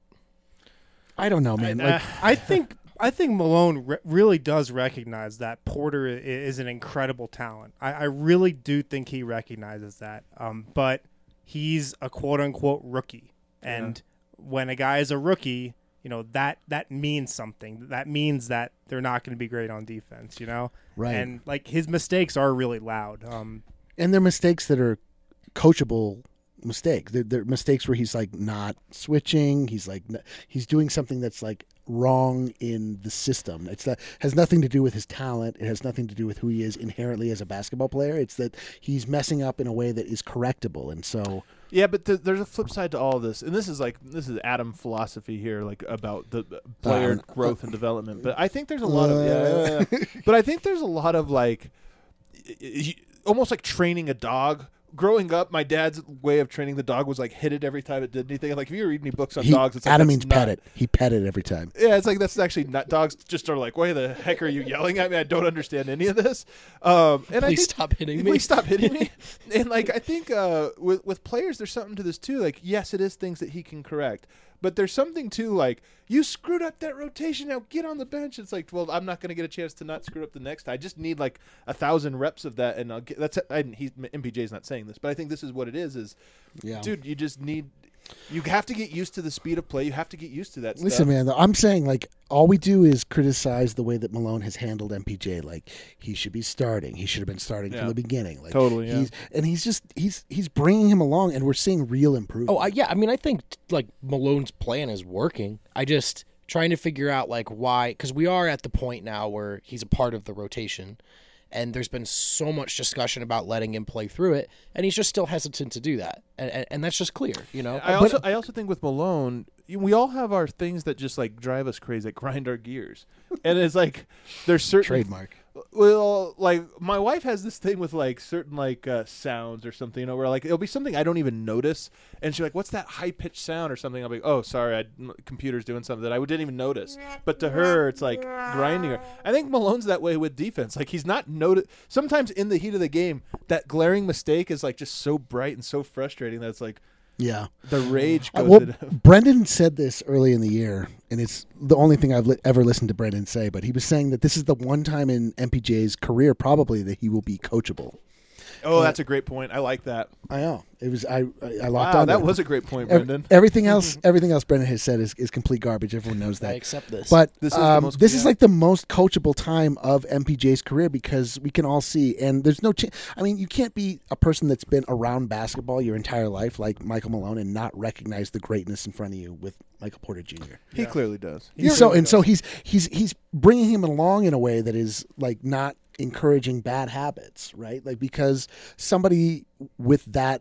I don't know, man. Uh, Like, I think I think Malone re- really does recognize that Porter i- is an incredible talent. I, I really do think he recognizes that. Um, but he's a quote unquote rookie, and when a guy is a rookie, you know that that means something. That means that they're not going to be great on defense. You know, Right. And like his mistakes are really loud. Um, and they're mistakes that are coachable mistakes. They're, they're mistakes where he's like not switching. He's like n- he's doing something that's like wrong in the system. It's that has nothing to do with his talent. It has nothing to do with who he is inherently as a basketball player. It's that he's messing up in a way that is correctable. And so Yeah, but th- there's a flip side to all of this, and this is like this is Adam philosophy here, like about the uh, player Uh, growth and development. But I think there's a lot of yeah, yeah, yeah. but I think there's a lot of like y- y- almost like training a dog. Growing up, my dad's way of training the dog was like hit it every time it did anything. Like if you read any books on he, dogs, it's like, Adam that's means not- pet it. He pet it every time. Yeah, it's like that's actually not dogs. Just are like, why the heck are you yelling at me? I don't understand any of this. Um, and I Please think, stop hitting me. Please stop hitting me. And like I think uh, with with players, there's something to this too. Like yes, it is things that he can correct, but there's something too. Like you screwed up that rotation. Now get on the bench. It's like, well, I'm not going to get a chance to not screw up the next. I just need like a thousand reps of that, and I'll get. That's I, he's M P J's not saying this, but I think this is what it is. Is Yeah. dude, you just need. You have to get used to the speed of play. You have to get used to that Listen, stuff. man, I'm saying like all we do is criticize the way that Malone has handled M P J. Like he should be starting. He should have been starting Yeah. from the beginning. Like Totally, yeah. He's, and he's just he's he's bringing him along, and we're seeing real improvement. Oh, I, yeah. I mean, I think like Malone's plan is working. I just trying to figure out like why, because we are at the point now where he's a part of the rotation, and there's been so much discussion about letting him play through it, and he's just still hesitant to do that, and and, and that's just clear, you know. I also I also think with Malone, you- we all have our things that just like drive us crazy, that grind our gears, and it's like there's certain Trademark. Well, like my wife has this thing with like certain like uh, sounds or something, you know, where like it'll be something I don't even notice, and she's like, "What's that high pitched sound or something?" I'll be, "Oh, sorry, I, m- computer's doing something that I didn't even notice." But to her, it's like grinding her. I think Malone's that way with defense. Like he's not noted. Sometimes in the heat of the game, that glaring mistake is like just so bright and so frustrating that it's like Yeah. the rage Uh, goes. well, to Brendan said this early in the year, and it's the only thing I've li- ever listened to Brendan say. But he was saying that this is the one time in M P J's career, probably, that he will be coachable. oh, that's a great point. I like that. I know it was. I I, I locked Wow, on. that to it. was a great point, Ev- Brendan. everything else, everything else Brendan has said is, is complete garbage. Everyone knows I that. accept this. But This this is is, the um, most- this is yeah. like the most coachable time of M P J's career because we can all see, and there's no. Ch- I mean, you can't be a person that's been around basketball your entire life like Michael Malone and not recognize the greatness in front of you with Michael Porter Junior He Yeah. clearly does. He so really and so does. he's he's he's bringing him along in a way that is like not encouraging bad habits, right? Like because somebody with that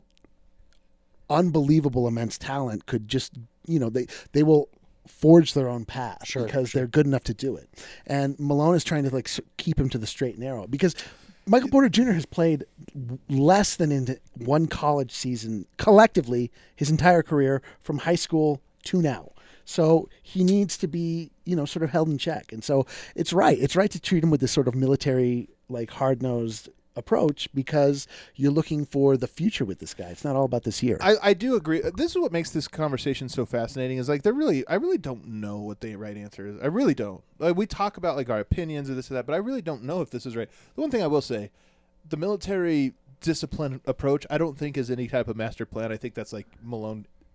unbelievable immense talent could just, you know, they they will forge their own path Sure, because sure. they're good enough to do it. And Malone is trying to like s- keep him to the straight and narrow because Michael Porter Junior has played less than in one college season collectively his entire career from high school to now. So he needs to be, you know, sort of held in check. And so it's right. It's right to treat him with this sort of military, like hard-nosed approach because you're looking for the future with this guy. It's not all about this year. I, I do agree. This is what makes this conversation so fascinating. Is like they're really, I really don't know what the right answer is. I really don't. Like we talk about like our opinions or this or that, but I really don't know if this is right. The one thing I will say, the military discipline approach, I don't think is any type of master plan. I think that's like Malone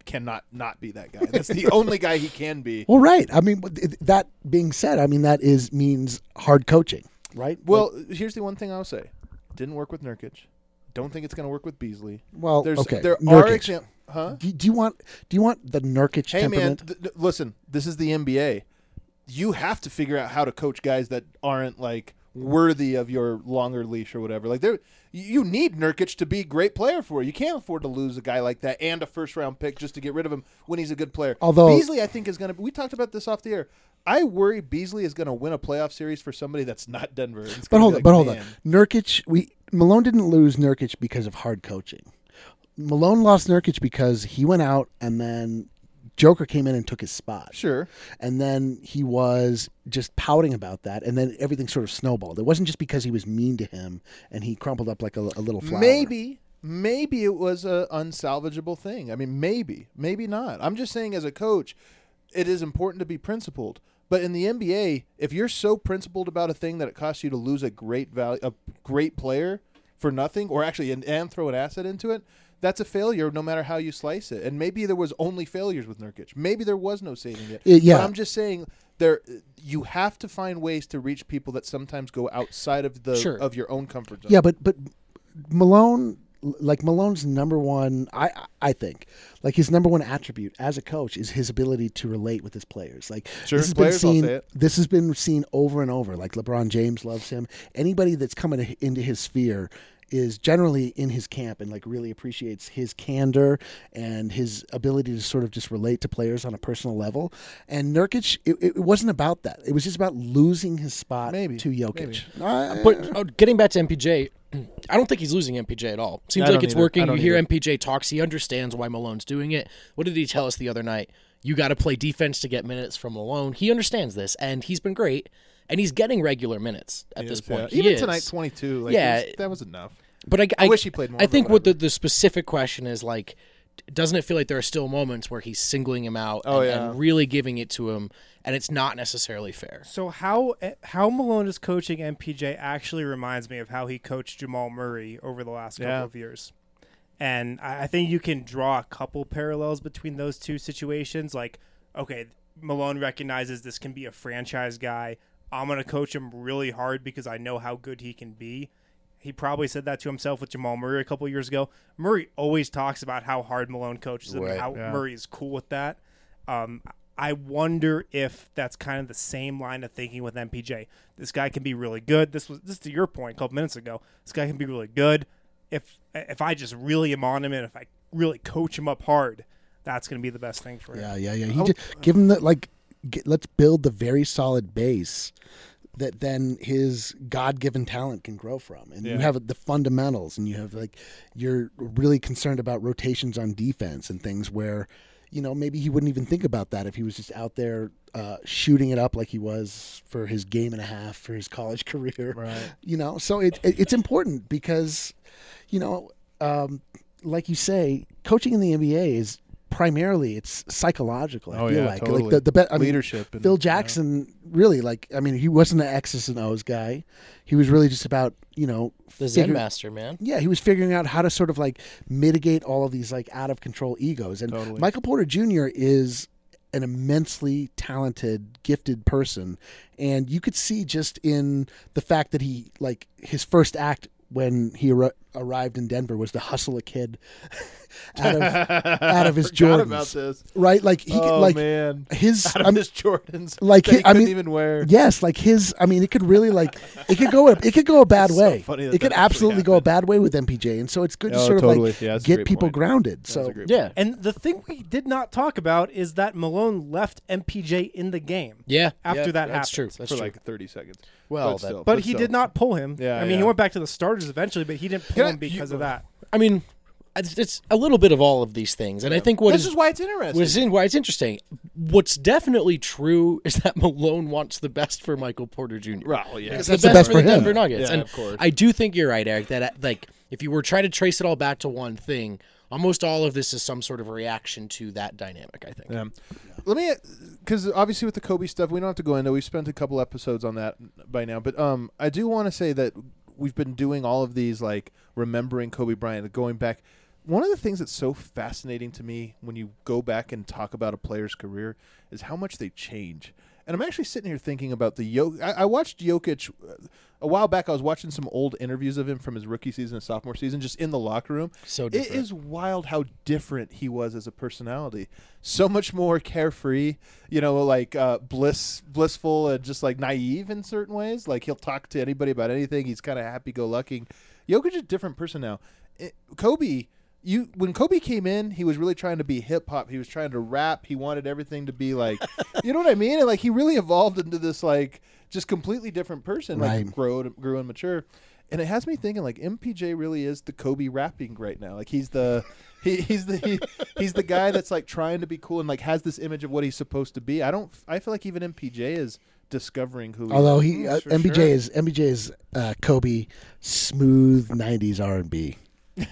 cannot not be that guy. That's the only guy he can be. Well, right. I mean, th- that being said, I mean that is means hard coaching, right? Well, here's the one thing I'll say: didn't work with Nurkic. Don't think it's going to work with Beasley. Well, There's, okay. there Nurkic. are examples. Huh? Do, do you want do you want the Nurkic Hey man, temperament? th- th- listen. This is the N B A. You have to figure out how to coach guys that aren't like worthy of your longer leash or whatever. Like there, you need Nurkic to be a great player for you. You can't afford to lose a guy like that and a first round pick just to get rid of him when he's a good player. Although- Beasley, I think is going to. We talked about this off the air. I worry Beasley is going to win a playoff series for somebody that's not Denver. It's But gonna hold be on, like, but hold on. man. Nurkic, we Malone didn't lose Nurkic because of hard coaching. Malone lost Nurkic because he went out and then Joker came in and took his spot. Sure. And then he was just pouting about that, and then everything sort of snowballed. It wasn't just because he was mean to him and he crumpled up like a, a little flower. Maybe, maybe it was a unsalvageable thing. I mean, maybe, maybe not. I'm just saying, as a coach, it is important to be principled. But in the N B A, if you're so principled about a thing that it costs you to lose a great value, a great player for nothing, or actually and, and throw an asset into it, that's a failure no matter how you slice it. And maybe there was only failures with Nurkic. Maybe there was no saving it. Uh, yeah. But I'm just saying there you have to find ways to reach people that sometimes go outside of the Sure. of your own comfort zone. Yeah, but but Malone, like Malone's number one, I I think, like his number one attribute as a coach is his ability to relate with his players. Like Sure, this has players, I'll been say seen. it. This has been seen over and over. Like LeBron James loves him. Anybody that's coming into his sphere is generally in his camp and like really appreciates his candor and his ability to sort of just relate to players on a personal level. And Nurkic, it, it wasn't about that. It was just about losing his spot Maybe, to Jokic. maybe. Uh, But uh, getting back to M P J, I don't think he's losing M P J at all. Seems I like don't it's either. I working. You don't hear either. M P J talks. He understands why Malone's doing it. What did he tell us the other night? You got to play defense to get minutes from Malone. He understands this, and he's been great. And he's getting regular minutes at this Yes, yeah. point. He Even is. tonight, twenty-two. Like, Yeah. it was- that was enough. But I, I wish he played more, I but think what the, whatever. the specific question is like, doesn't it feel like there are still moments where he's singling him out Oh, and, yeah. and really giving it to him, and it's not necessarily fair? So how how Malone is coaching M P J actually reminds me of how he coached Jamal Murray over the last couple Yeah. of years. And I I think you can draw a couple parallels between those two situations. Like, okay, Malone recognizes this can be a franchise guy. I'm going to coach him really hard because I know how good he can be. He probably said that to himself with Jamal Murray a couple of years ago. Murray always talks about how hard Malone coaches him Right. and how Yeah. Murray is cool with that. Um, I wonder if that's kind of the same line of thinking with M P J. This guy can be really good. This was this is to your point a couple minutes ago. This guy can be really good. If if I just really am on him and if I really coach him up hard, that's going to be the best thing for him. Yeah, yeah, yeah. He Oh. just, give him the like. Get, let's build the very solid base that then his God-given talent can grow from, and you Yeah. have the fundamentals, and you have like you're really concerned about rotations on defense and things where, you know, maybe he wouldn't even think about that if he was just out there uh, shooting it up like he was for his game and a half for his college career. Right. You know, so it, it it's important because, you know, um, like you say, coaching in the N B A is primarily it's psychological. I Oh, feel yeah, like totally. like the the be- I mean, Leadership. And, Phil Jackson really like I mean he wasn't an X's and O's guy. He was really just about, you know, The Zen figure- Master, man. yeah, he was figuring out how to sort of like mitigate all of these like out of control egos. And Totally. Michael Porter Junior is an immensely talented, gifted person, and you could see just in the fact that he like his first act when he ar- arrived in Denver was to hustle a kid out of out of his Forgot Jordans, about this. right? Like he could, Oh like man, his out of I'm- his Jordans, like, that he I couldn't mean, even wear. Yes, like his. I mean, it could really like it could go. It could go a bad It's so way. funny that it could that actually absolutely go a happened. bad way with M P J, and so it's good to Oh, sort totally. of like Yeah, that's a get great people point. grounded. That's So a great Yeah. And the thing we did not talk about is that Malone left M P J in the game. Yeah. After yeah, that that's true. happened. That's for true. like thirty seconds. Well, but that- still, But he still. did not pull him. Yeah, I mean, yeah. he went back to the starters eventually, but he didn't pull Can I- him because you- of that. I mean, it's, it's a little bit of all of these things, and I think what This is, is why it's interesting. what's in, why it's interesting. What's definitely true is that Malone wants the best for Michael Porter Junior Well, yeah. It's That's the the best, best for the for him. Denver Nuggets, Yeah, and of course. I do think you're right, Eric. That uh, like if you were trying to trace it all back to one thing, almost all of this is some sort of reaction to that dynamic. I think. Yeah. Let me, because obviously with the Kobe stuff, we don't have to go into. We've spent a couple episodes on that by now, but um, I do want to say that we've been doing all of these like remembering Kobe Bryant, going back. one of the things that's so fascinating to me when you go back and talk about a player's career is how much they change. And I'm actually sitting here thinking about the Jokic. I, I watched Jokic uh, a while back. I was watching some old interviews of him from his rookie season and sophomore season, just in the locker room. So It different. is wild how different he was as a personality. So much more carefree, you know, like uh, bliss, blissful, and just like naive in certain ways. Like he'll talk to anybody about anything. He's kind of happy-go-lucky. Jokic is a different person now. It, Kobe. You when Kobe came in, he was really trying to be hip hop. He was trying to rap. He wanted everything to be like, you know what I mean? And like he really evolved into this like just completely different person, Right. like grew grew and mature. And it has me thinking like M P J really is the Kobe rapping right now. Like he's the he, he's the he, he's the guy that's like trying to be cool and like has this image of what he's supposed to be. I don't I feel like even M P J is discovering who. Although he he is. uh, for M B J sure. is M B J is uh, Kobe smooth nineties R and B.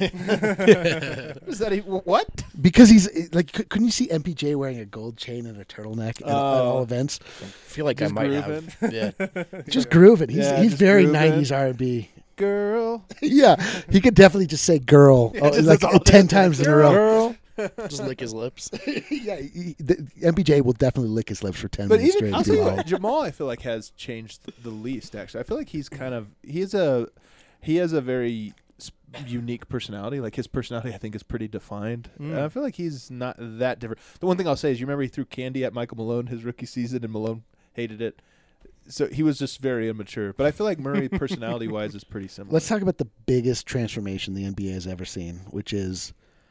Is that he, what? Because he's like, c- couldn't you see M P J wearing a gold chain and a turtleneck at, at all Oh. events? I feel like Just I might grooving. have. Yeah. Just grooving. He's Yeah, he's just very grooving. nineties R and B. Girl. Yeah, he could definitely just say "girl" Yeah, oh, just like that's all ten it is. times in a row. Girl. Just lick his lips. yeah, he, the, M P J will definitely lick his lips for ten But minutes even straight. I'll if tell you you want. what, Jamal, I feel like has changed the least. Actually, I feel like he's kind of he's a he has a very s- unique personality. Like his personality, I think, is pretty defined. Mm. And I feel like he's not that different. The one thing I'll say is, you remember he threw candy at Michael Malone his rookie season, and Malone hated it. So he was just very immature. But I feel like Murray, personality-wise, is pretty similar. Let's talk about the biggest transformation the N B A has ever seen, which is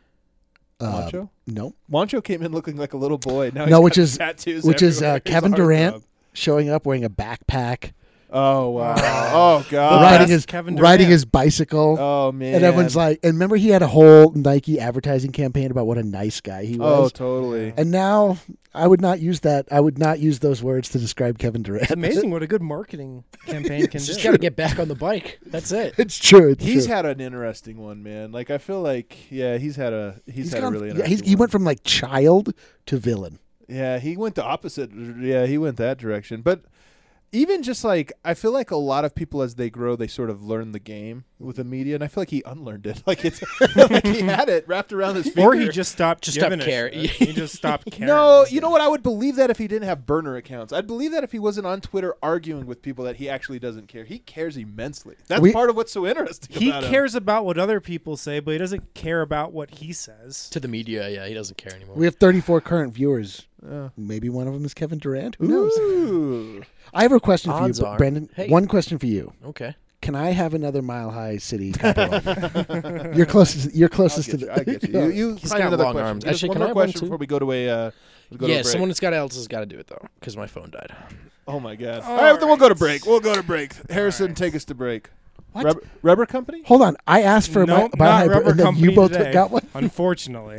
uh, Wancho. no, Wancho came in looking like a little boy. Now No, he's which got is- tattoos which is, everywhere. uh, He's a Kevin heartthrob. Durant. showing up wearing a backpack, Oh wow! Wow. Oh god! riding best his Kevin riding Durant. his bicycle. Oh man! And everyone's like, and remember he had a whole Nike advertising campaign about what a nice guy he "Oh, was. totally." And now I would not use that. I would not use those words to describe Kevin Durant. It's amazing what a good marketing campaign can Just do. got to get back on the bike. That's it. It's true. It's He's true. had an interesting one, man. Like I feel like, yeah, he's had a he's, He's had gone- a really yeah, interesting. he's, he one. went from like child to villain. Yeah, he went the opposite. Yeah, he went that direction. But even just like, I feel like a lot of people as they grow, they sort of learn the game with the media, and I feel like he unlearned it. Like it's like he had it wrapped around his finger. Or he just stopped Just giving stopped a caring. shit. He just stopped caring. No, you know what? I would believe that if he didn't have burner accounts. I'd believe that if he wasn't on Twitter arguing with people that he actually doesn't care. He cares immensely. That's We- part of what's so interesting He about him. cares about what other people say, but he doesn't care about what he says. To the media, yeah, he doesn't care anymore. We have thirty-four current viewers. Uh, Maybe one of them is Kevin Durant. Who knows? Ooh. I have a question for you, Odds B- are. Brandon. Hey. One question for you. Okay. Can I have another Mile High City capital? You're closest. You're I'll closest get to you. the. I get you. You, you He's find got another long question. arms. Just Actually, one can more I have one question too? before we go to a. Uh, go to Yeah, a break. someone else got else has got to do it though, because my phone died. Oh my god! All All right, then we'll go to right. break. We'll go to break. Harrison, right. take us to break. What? Rubber, rubber company? Hold on. I asked for a Nope, mi- Mile not High, Rubber and then Company you both today, got one. Unfortunately,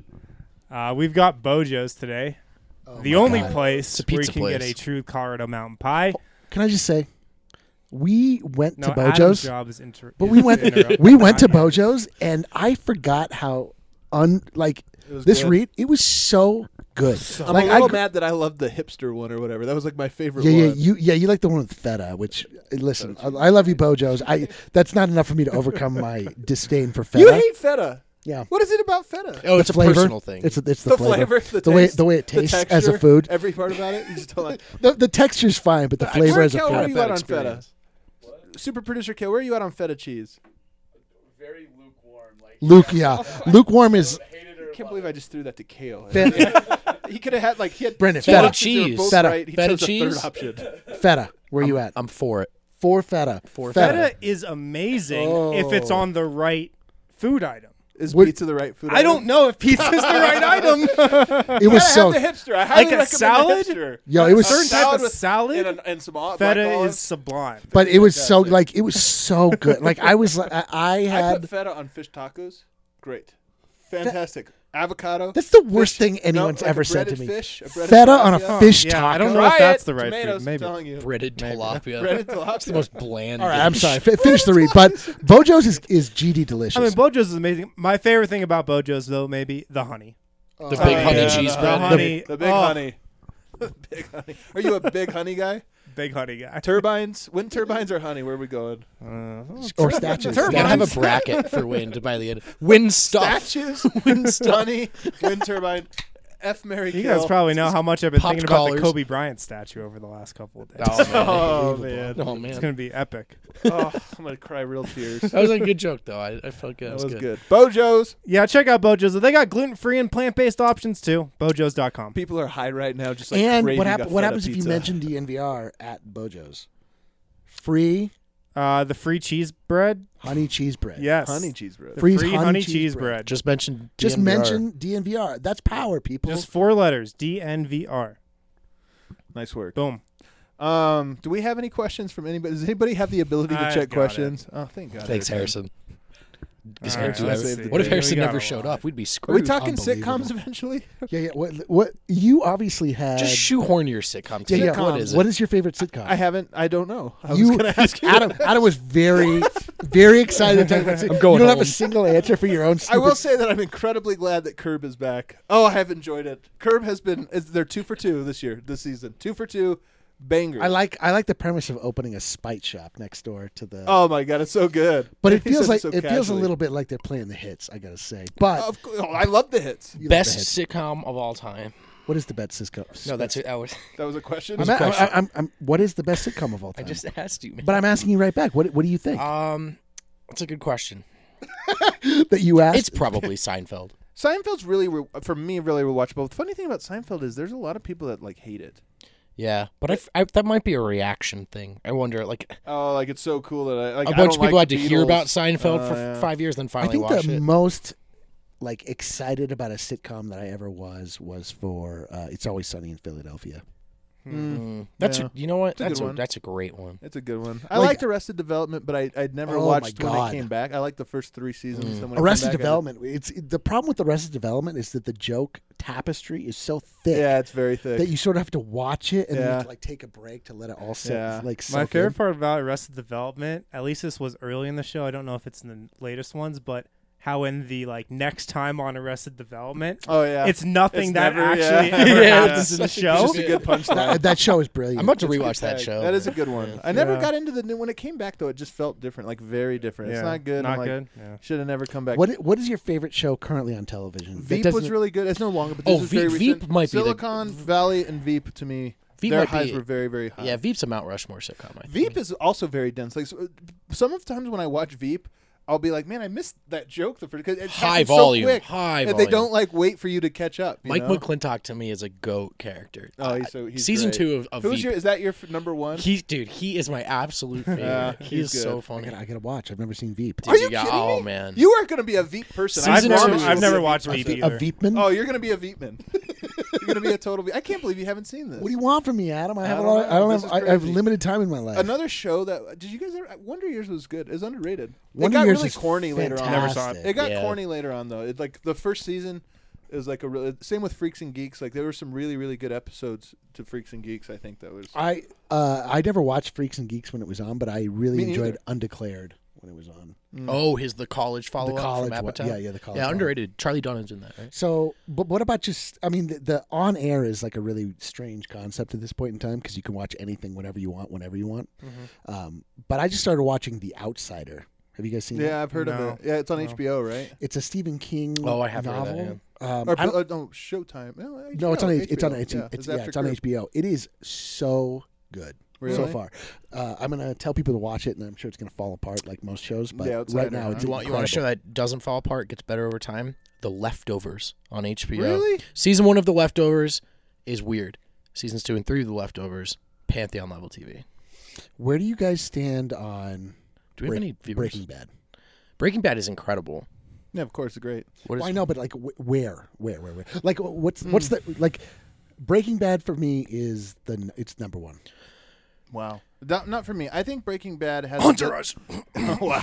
uh, we've got Bojo's today. Oh the my only God. place It's a where you pizza can get place. a true Colorado mountain pie. Can I just say, we went No, to Adam's Bojo's, job is inter- but is we to went interrupt we the went to podcast. Bojo's, and I forgot how un like It was this good. read. It was so good. I'm like a little I, gr- mad that I loved the hipster one or whatever. That was like my favorite yeah, yeah, one. you, yeah, you like the one with feta. Which uh, listen, I, I love you, Bojo's. I that's not enough for me to overcome my disdain for feta. You hate feta. yeah, What is it about feta? Oh, The it's a flavor, personal thing. It's a, it's the, the flavor, flavor, the, the way taste, the way it the tastes texture, as a food. Every part about it. You just don't like. The, the texture's fine, but the flavor Where, as a Kel, where are food. you at on experience. feta? Super producer Kel, where are you at on feta cheese? Very lukewarm. Like Luke, yeah, lukewarm is hated I or can't believe I just threw that to Kale. Fe- he could have had like he had Brendan, two feta options, they were cheese. both Feta. right. He Feta chose the cheese? third option. feta. Where you I'm, at? I'm for it. For feta. For Feta is amazing if it's Oh. on the right food item. Is What- pizza the right food? I don't know if pizza's the right item. It was so. the hipster. I highly Like a recommend salad? The hipster. Yo, it was certain so- type of with- salad. and, and some ol- Feta black is olives. sublime. But it was so Fantastic. like it was so good. Like I was like I, I I had. put feta on fish tacos. Great, fantastic. Avocado. That's the worst fish- thing no, anyone's like a ever said to breaded me. Fish, a breaded Feta on a tilapia. fish yeah, taco. I don't know Try if that's it. the right Tomatoes, food. Maybe. I'm telling you. Breaded Maybe. tilapia. Breaded tilapia. It's the most bland. All right, I'm dish. sorry. F- finish the read. But Bojo's is, is G D delicious. I mean, Bojo's is amazing. My favorite thing about Bojo's, though, maybe the honey. Oh, The big honey yeah, cheese the bread. honey. The big Oh. honey. The big honey. Are you a big honey guy? big honey guy. Turbines, wind turbines or honey? Where are we going? Uh, Or statues. We gotta have a bracket for wind by the end. Wind stuff. Statues, Wind stuff. honey, wind turbine. F Mary you kill. guys probably know how much I've been Popped thinking about the collars. Kobe Bryant statue over the last couple of days. Oh, man. Oh man, Oh, man. It's gonna be epic. oh, I'm gonna cry real tears. That was a good joke, though. I, I felt good. That That was good. good. Bojo's. Yeah, check out Bojo's. They got gluten-free and plant-based options too. Bojos dot com. People are high right now, just like And craving what, a hap- what feta happens if you pizza. mention D N V R at Bojo's? Free Uh, the free cheese bread. honey cheese bread. Yes. honey cheese bread? The Free free honey honey cheese cheese bread. bread. Just mention. Just D M V R. mention D N V R. That's power, people. Just four letters. D N V R. Nice work. Boom. Um, do we have any questions from anybody? Does anybody have the ability to I've check got questions? Oh, thank God. Thanks, Every time. Harrison. Is All right, Harrison let's ever- see. what if We Harrison got never a showed lot. up? We'd be Are we screwed. talking Unbelievable. sitcoms eventually? yeah, yeah. What, what you obviously had? Just shoehorn your sitcom. yeah, to yeah. it. What is it? What is your favorite sitcom? I haven't. I don't know. I you, was going to ask you. Adam. Adam was very, very excited to talk about. I'm going You don't have home. a single answer for your own. I Stupid will say that I'm incredibly glad that Curb is back. Oh, I have enjoyed it. Curb has been. Is, they're two for two this year, this season. Two for two, bangers. I like I like the premise of opening a spite shop next door to the. Oh my God, it's so good. but it He feels says like so it feels a casually. little bit like they're playing the hits. I gotta say, but Of course, oh, I love the hits. you like the Best hits. sitcom of all time? What is the best sitcom? No, that's it. I, was, That was a question. I'm, I'm, I'm, I'm, what is the best sitcom of all I time? just asked you, man. But I'm asking you right back. What What do you think um, that's a good question. that you asked? It's probably Seinfeld. Seinfeld's really, re- for me, really rewatchable. The funny thing about Seinfeld is there's a lot of people that like hate it. Yeah, but I f I that might be a reaction thing. I wonder, like, Oh, like it's so cool that I like a I bunch don't of people like had to the hear Beatles. about Seinfeld Uh, for yeah. five years, then I finally think watch the it. most like excited about a sitcom that I ever was was for uh, It's Always Sunny in Philadelphia. Mm, that's Yeah. a, you know what? a That's good a, one. that's a great one. It's a good one. I Like- liked Arrested Development, but I I'd never Oh, watched my when God. it came back. I liked the first three seasons. Mm. Then when it came Arrested back, I- Development. It's the problem with Arrested Development is that the joke tapestry is so thick Yeah, it's very thick. that you sort of have to watch it and then you Yeah. have to, like take a break to let it all sit. Yeah. Like My soak favorite in. part about Arrested Development, at least this was early in the show. I don't know if it's in the latest ones, but how in the like next time on Arrested Development, oh yeah, it's nothing It's that never- yeah. actually ever Yeah, happens in the It's show. just a good punchline. That, that show is brilliant. I'm about to It's a good rewatch that tag. show. That is a good one. I never Yeah. got into the new when it came back though. It just felt different, like very different. It's Yeah, not good. Not I'm like, good. Yeah. Should have never come back. What i- What is your favorite show currently on television? That Veep was doesn't- really good. It's no longer, but Oh, this is Veep- very Veep recent. might be the- Silicon Valley and Veep to me. Veep their might highs be- were very very high. Yeah, Veep's a Mount Rushmore sitcom. I think. Veep is also very dense. Like so, some of times when I watch Veep, I'll be like, man, I missed that joke the first because it High happens volume, so quick, high and volume. they don't like wait for you to catch up. you Mike know? McClintock to me is a goat character. Oh, he's so he's Season great. two of, of Who's Veep. your? Is that your f- number one? He, dude, he is my absolute favorite. Yeah, he he's is so good. I funny. gotta, I gotta watch. I've never seen Veep. Are you Yeah, kidding oh, me? man. You are going to be a Veep person. I Season promise two, you I've will never be a watched Veep Veep person. A either. Veepman? Oh, you're going to be a Veepman. You're going to be a total Veep. I can't believe you haven't seen this. What do you want from me, Adam? I have I a don't lot. Of, know. I don't This have. is I, I have crazy. limited time in my life. Another show that did you guys ever? Wonder Years was good. It's underrated. Wonder it got Years really is corny later on. Never saw it. fantastic. It got Yeah. corny later on though. It like the first season is like a real. Same with Freaks and Geeks. Like there were some really really good episodes to Freaks and Geeks. I think that was. I uh, I never watched Freaks and Geeks when it was on, but I really Me enjoyed neither. Undeclared when it was on. Oh, his the college follow the up college from one. Apatow. Yeah, yeah, the college Yeah, one. underrated. Charlie Dunn's in that, right? So, but what about just? I mean, the, the on air is like a really strange concept at this point in time because you can watch anything whenever you want, whenever you want. Mm-hmm. Um, but I just started watching The Outsider. Have you guys seen Yeah, that? I've heard No. of it. Yeah, it's on No. H B O, right? It's a Stephen King Oh, I have heard of novel. that, um, Or I don't- uh, no, Showtime. No, no, it's on. H B O. It's on. It's, yeah, it's, it's yeah, after it's on Curb. H B O. It is so good. so Really? far. Uh, I'm gonna tell people to watch it, and I'm sure it's gonna fall apart like most shows. But The right Outsider, now, huh? it's You want you want a show incredible. that doesn't fall apart, gets better over time? The Leftovers on H B O. Really? Season one of The Leftovers is weird. Seasons two and three of The Leftovers, Pantheon level T V. Where do you guys stand on Do we have Break- any viewers? Breaking Bad? Breaking Bad is incredible. Yeah, of course, it's great. What is Well, I know, but like, wh- where, where, where, where? Like, what's what's the like? Breaking Bad for me is the n- it's number one. Wow. Not, not for me. I think Breaking Bad has Entourage? Wow.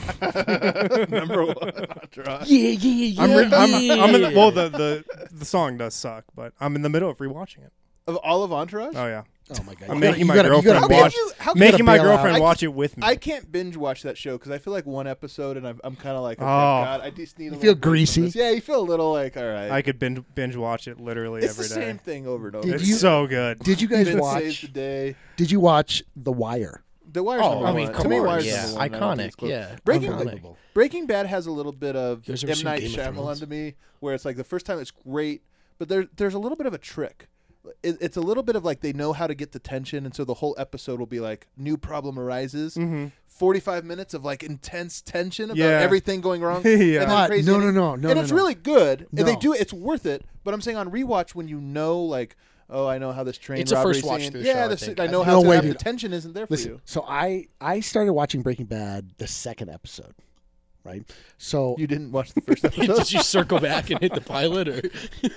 Number one. Entourage. Yeah, yeah, yeah. I'm, re- I'm, yeah. I'm in the, well, the, the the song does suck, but I'm in the middle of rewatching it. Of all of Entourage? Oh yeah, Oh my god! I'm You making gotta- my you gotta- you girlfriend gotta How watch. could you- how could- Making my bail out. girlfriend I watch it with me. I can't binge watch that show because I feel like one episode and I'm, I'm kind of like, okay, Oh. God, I just need. A You little feel break from greasy? this. Yeah, you feel a little like, all right. I could binge, binge watch it literally it's every the day. same thing over and over. Did It's you- so good. Did you guys Vince saves the watch? day. Did you watch The Wire? The Wire's Oh, number I one. mean, to come me, on, Wire's yeah, number one. I don't think it's iconic, close. yeah, Breaking unbelievable. Breaking Bad has a little bit of You guys M. ever seen Night Game of Shyamalan Thrones? to me, where it's like the first time it's great, but there there's a little bit of a trick. It, it's a little bit of like they know how to get the tension, and so the whole episode will be like new problem arises. Mm-hmm. forty-five minutes of like intense tension about Yeah. everything going wrong. Yeah. and then But crazy no, no, ending. no, no, and no, it's no. really good. And they No. do it. It's worth it. But I'm saying on rewatch when you know like. Oh, I know how this train It's a robbery first watch scene- through the Yeah, show, I the think. I know No how to way, have the dude. tension isn't there for Listen, you. so I I started watching Breaking Bad the second episode, right? So You didn't watch the first episode. Did you circle back and hit the pilot, or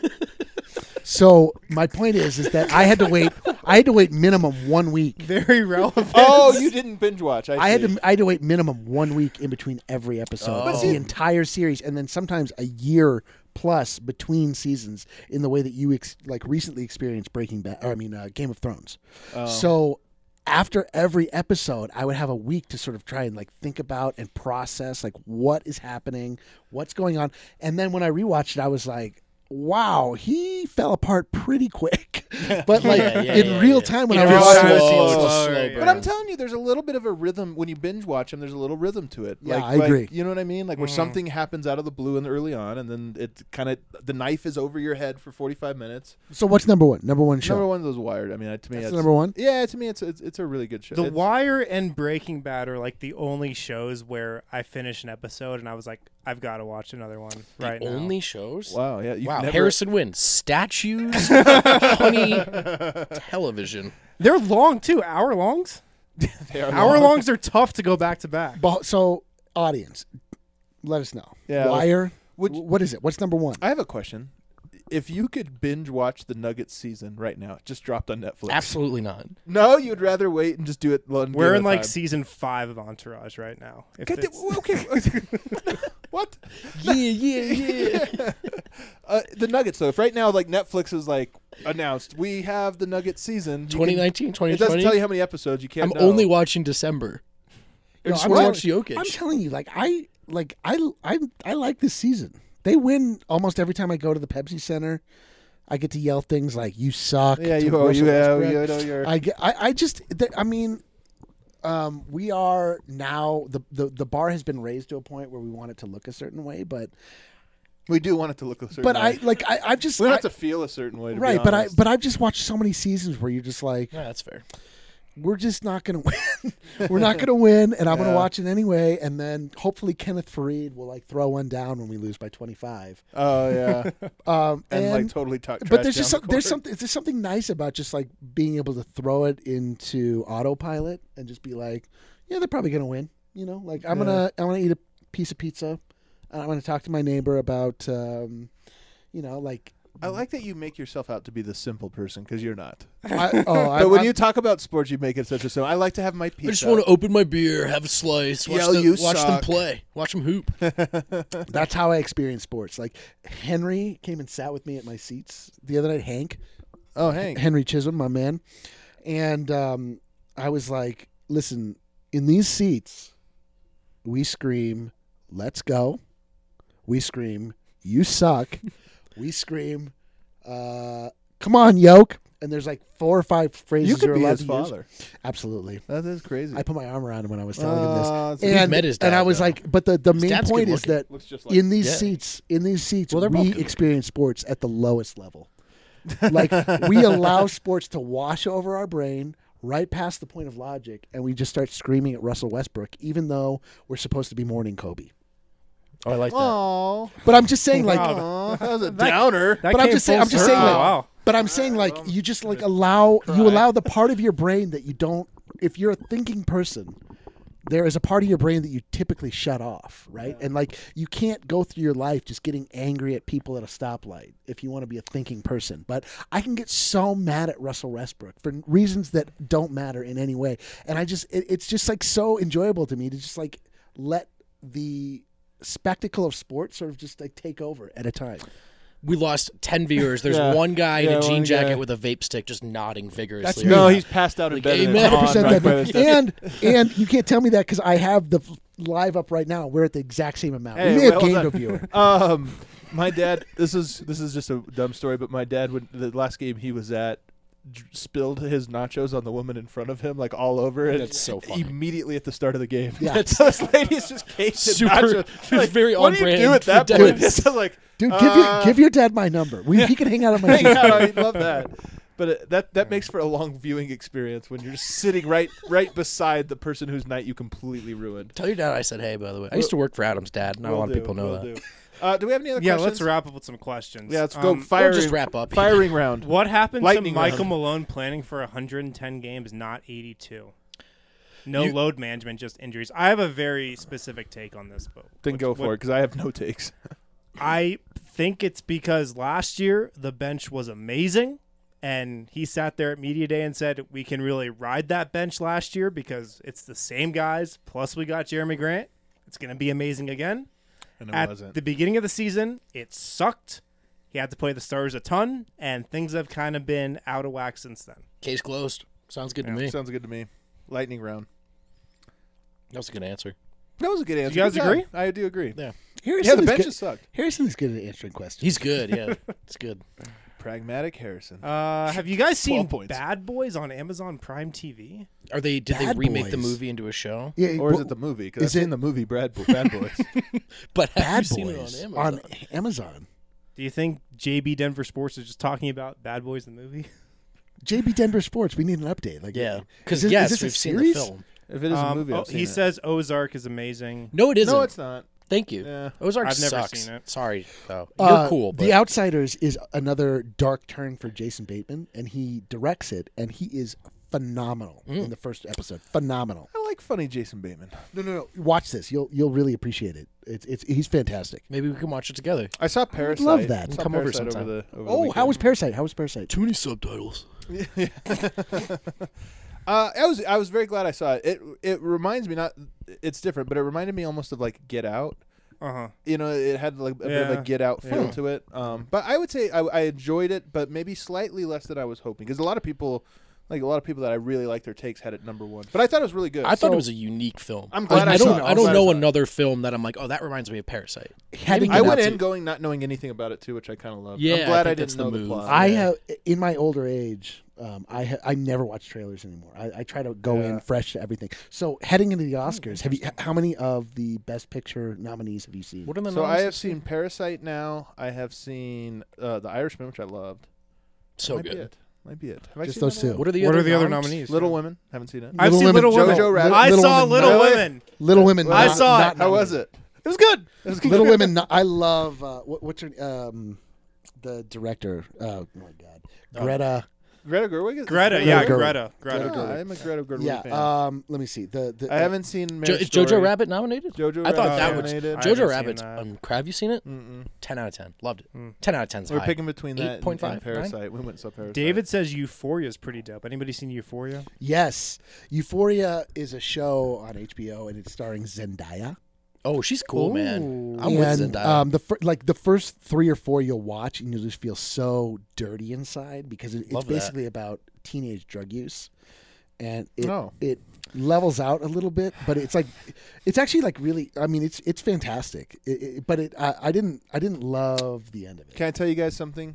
so my point is is that I had to wait. I had to wait minimum one week. Very relevant. Oh, you didn't binge watch. I, I had see. to I had to wait minimum one week in between every episode, But of see- the entire series, and then sometimes a year plus between seasons. In the way that you ex- like recently experienced Breaking Bad, or I mean uh, Game of Thrones. Oh. So after every episode, I would have a week to sort of try and like think about and process like what is happening, what's going on, and then when I rewatched it, I was like, wow, he fell apart pretty quick. But like Yeah, yeah, in yeah, real yeah. time when It I was was slow, watching, slow, it's a slow, slow yeah. burn. But I'm telling you, there's a little bit of a rhythm when you binge watch them. There's a little rhythm to it. Yeah, like, I like, agree. You know what I mean? Like where Mhm. something happens out of the blue and early on, and then it kind of the knife is over your head for forty-five minutes. so what's number one? Number one show. Number one was Wired. I mean, to me, That's it's, the number one. Yeah, to me, it's it's, it's a really good show. The It's- Wire and Breaking Bad are like the only shows where I finish an episode and I was like, I've got to watch another one right now. only shows? Wow, yeah, you've Wow, never, Harrison wins. Statues, honey, television. They're long too. Hour longs. they are Hour long. longs are tough to go back to back. But, so audience, let us know. Yeah. Wire. Would w- what is it? What's number one? I have a question. If you could binge watch the Nuggets season right now, it just dropped on Netflix. Absolutely not. No, you'd rather wait and just do it. One We're game in at a like time. season five of Entourage right now. If God it's- damn- okay. What? Yeah, yeah, yeah. uh, the Nuggets, though. If right now, like Netflix is like announced, we have the Nuggets season. you twenty can- nineteen, twenty It doesn't twenty. tell you how many episodes. You can't. I'm know. only watching December. I No, just I'm want to telling- watch Jokic. I'm telling you, like I like I I I like this season. They win almost every time I go to the Pepsi Center. I get to yell things like "you suck." Yeah, to you. Oh, Russell you have. Westbrook. You know, you're. I, get, I, I just, th- I mean, um, we are now the, the the bar has been raised to a point where we want it to look a certain way, but we do want it to look a certain but way. I like I I've just we don't I- have to feel a certain way. To be right, but I honest. but I've just watched so many seasons where you're just like, yeah, that's fair. we're just not gonna win, we're not gonna win, and I'm gonna Yeah. watch it anyway, and then hopefully Kenneth Fareed will like throw one down when we lose by twenty-five. Oh yeah, Um, and, and, like totally talk. but there's just down some, the there's court. something there's something nice about just like being able to throw it into autopilot and just be like, yeah, they're probably gonna win. You know, like I'm Yeah. gonna I'm gonna eat a piece of pizza. I'm gonna talk to my neighbor about, um, you know, like. I like that you make yourself out to be the simple person because you're not. I, oh, I, But when I- you talk about sports, you make it such a simple. I like to have my pizza. I just want to open my beer, have a slice, watch, Yell, them, "You watch them suck." play, watch them hoop. that's how I experience sports. Like Henry came and sat with me at my seats the other night. Hank, Oh, Hank. Henry Chisholm, my man, and um, I was like, listen, in these seats, we scream, "Let's go!" We scream, "You suck!" We scream, uh, "Come on, yoke!" And there's like four or five phrases You could are be allowed his to use. father. Absolutely. That is crazy. I put my arm around him when I was telling him Uh, this. so We've And, met his and I dad, was though. like, but the, the His main dad's point good is that looks just like in these Yeah. seats, in these seats, Well, they're both we good. experience sports at the lowest level. Like we allow sports to wash over our brain right past the point of logic, and we just start screaming at Russell Westbrook, even though we're supposed to be mourning Kobe. Oh, I like that. Oh, But I'm just saying, like, Wow. that was a downer. That But I'm came just saying- full I'm just circle. saying, like- wow. but I'm saying, like, you just like allow you allow the part of your brain that you don't. If you're a thinking person, there is a part of your brain that you typically shut off, right? And like you can't go through your life just getting angry at people at a stoplight if you want to be a thinking person. But I can get so mad at Russell Westbrook for reasons that don't matter in any way, and I just it, it's just like so enjoyable to me to just like let the spectacle of sports sort of just like take over at a time. We lost ten viewers. There's Yeah. one guy in Yeah, a jean one jacket guy. with a vape stick just nodding vigorously. That's around. me. No, he's passed out in Like, bed. and amen. it's on one hundred percent right by that. his desk. And and you can't tell me that because I have the f- live up right now. We're at the exact same amount. Hey, we may have well gained done. a viewer. Um, my dad. This is this is just a dumb story, but my dad, when the last game he was at, d- spilled his nachos on the woman in front of him, like all over it. That's so funny. Immediately at the start of the game. Yeah. so this lady's just cased in Super- nachos. it's Like, very what do you on-brand do at for that dads. point? It's like, Dude, give uh, your give your dad my number. We, he can hang out on my hang seat. out, I'd love that. But it, that that makes for a long viewing experience when you're just sitting right right beside the person whose night you completely ruined. Tell your dad I said hey, by the way. I used to work for Adam's dad. Not a Will lot of do, people know will that. do. Uh, do we have any other Yeah, questions? let's wrap up with some questions. Yeah, let's go Um, firing. Or just wrap up. Firing round. What happened Lightning to Michael round. Malone planning for one hundred ten games, not eighty-two? No You- load management, just injuries. I have a very specific take on this, but Then which- go what- for it because I have no takes. I think it's because last year the bench was amazing, and he sat there at media day and said we can really ride that bench last year because it's the same guys. Plus, we got Jeremy Grant. It's going to be amazing again. And it At wasn't. the beginning of the season, it sucked. He had to play the stars a ton, and things have kind of been out of whack since then. Case closed. Sounds good Yeah. to me. Sounds good to me. Lightning round. That was a good answer. That was a good answer. you guys Good job. agree? I do agree. Yeah. Harrison Yeah, the is benches good. sucked. Harrison is good at answering questions. He's good, yeah. It's good. Pragmatic Harrison. Uh, have you guys seen twelve points. Bad Boys on Amazon Prime T V? Are they did Bad they remake the Boys. movie into a show? yeah, or is but it the movie? Because I've is it- seen the movie Brad Bo- Bad Boys. But have Bad you seen Boys it on on Amazon? Amazon? Do you think J B Denver Sports is just talking about Bad Boys the movie? J B Denver Sports. We need an update. Like, Yeah. is Because this- yes, is this a we've seen series? the film. if it is a Um, movie, oh, I've seen he it. says Ozark is amazing. No, it isn't. No, it's not. Thank you. Yeah. Ozark I've never sucks. seen it. Sorry, though. You're Uh, cool, but The Outsiders is another dark turn for Jason Bateman, and he directs it, and he is phenomenal Mm. in the first episode. Phenomenal. I like funny Jason Bateman. No, no, no. Watch this. You'll you'll really appreciate it. It's it's he's fantastic. maybe we can watch it together. I saw Parasite. love that. I saw Come over Parasite sometime. Over the, over the Oh, how was weekend. Parasite? How was Parasite? Too many subtitles. Uh, I was I was very glad I saw it. It it reminds me not. It's different, but it reminded me almost of like Get Out. Uh huh. You know, it had like a bit of Yeah. a Get Out feel Yeah. to it. Um, but I would say I, I enjoyed it, but maybe slightly less than I was hoping because a lot of people, like a lot of people that I really like their takes, had it number one. But I thought it was really good. I thought So- it was a unique film. I'm glad I, I don't. saw it. I I'm don't glad I know saw it. another film that I'm like, oh, that reminds me of Parasite. Heading I into- went Get in Out. going not knowing anything about it too, which I kind of love. Yeah, I'm I glad I, think didn't that's the know the move. plot. I Yeah. have in my older age. Um, I ha- I never watch trailers anymore. I, I try to go Yeah. in fresh to everything. So heading into the Oscars, have you? h- How many of the Best Picture nominees have you seen? What are the So I nominees? have seen Parasite now. I have seen uh, The Irishman, which I loved. So Might Be good. it. Might be it. Have I Just seen those that two. one? What are the What other are the other noms? nominees? Little Women. Haven't seen it. I've Little seen Women. Little Women. Jojo Rabbit. I Little saw Women, Little no way. Women. Little Women. I not- saw not it. How was nominated. it? It was good. It was good. Little Women. no- I love uh, what, what's her um, the director. Oh my God, Oh. Greta. Greta Gerwig. Is Greta, Greta yeah, Gerwig. Greta. Greta. Yeah, Gerwig. I'm a Greta Gerwig Yeah. fan. Um. Let me see. The, the I haven't seen. Jo- Marriage is Jojo Story. Rabbit nominated? Jojo I thought Rabbit that was nominated. I haven't Jojo seen Rabbit's. that. Um, Crab, you seen it? Mm-mm. Ten out of ten. Loved it. Mm. Ten out of ten's We're high. picking between that and, 8.5, and Parasite. We went and saw Parasite. David says Euphoria is pretty dope. Anybody seen Euphoria? Yes, Euphoria is a show on H B O and it's starring Zendaya. Oh, she's cool, man. Ooh. I'm with and Zendaya. um, the fir- like the first three or four you'll watch and you'll just feel so dirty inside because it, it's Love that. basically about teenage drug use, and it Oh. it levels out a little bit, but it's like it's actually like really. I mean, it's it's fantastic. It, it, but it I, I didn't I didn't love the end of it. Can I tell you guys something?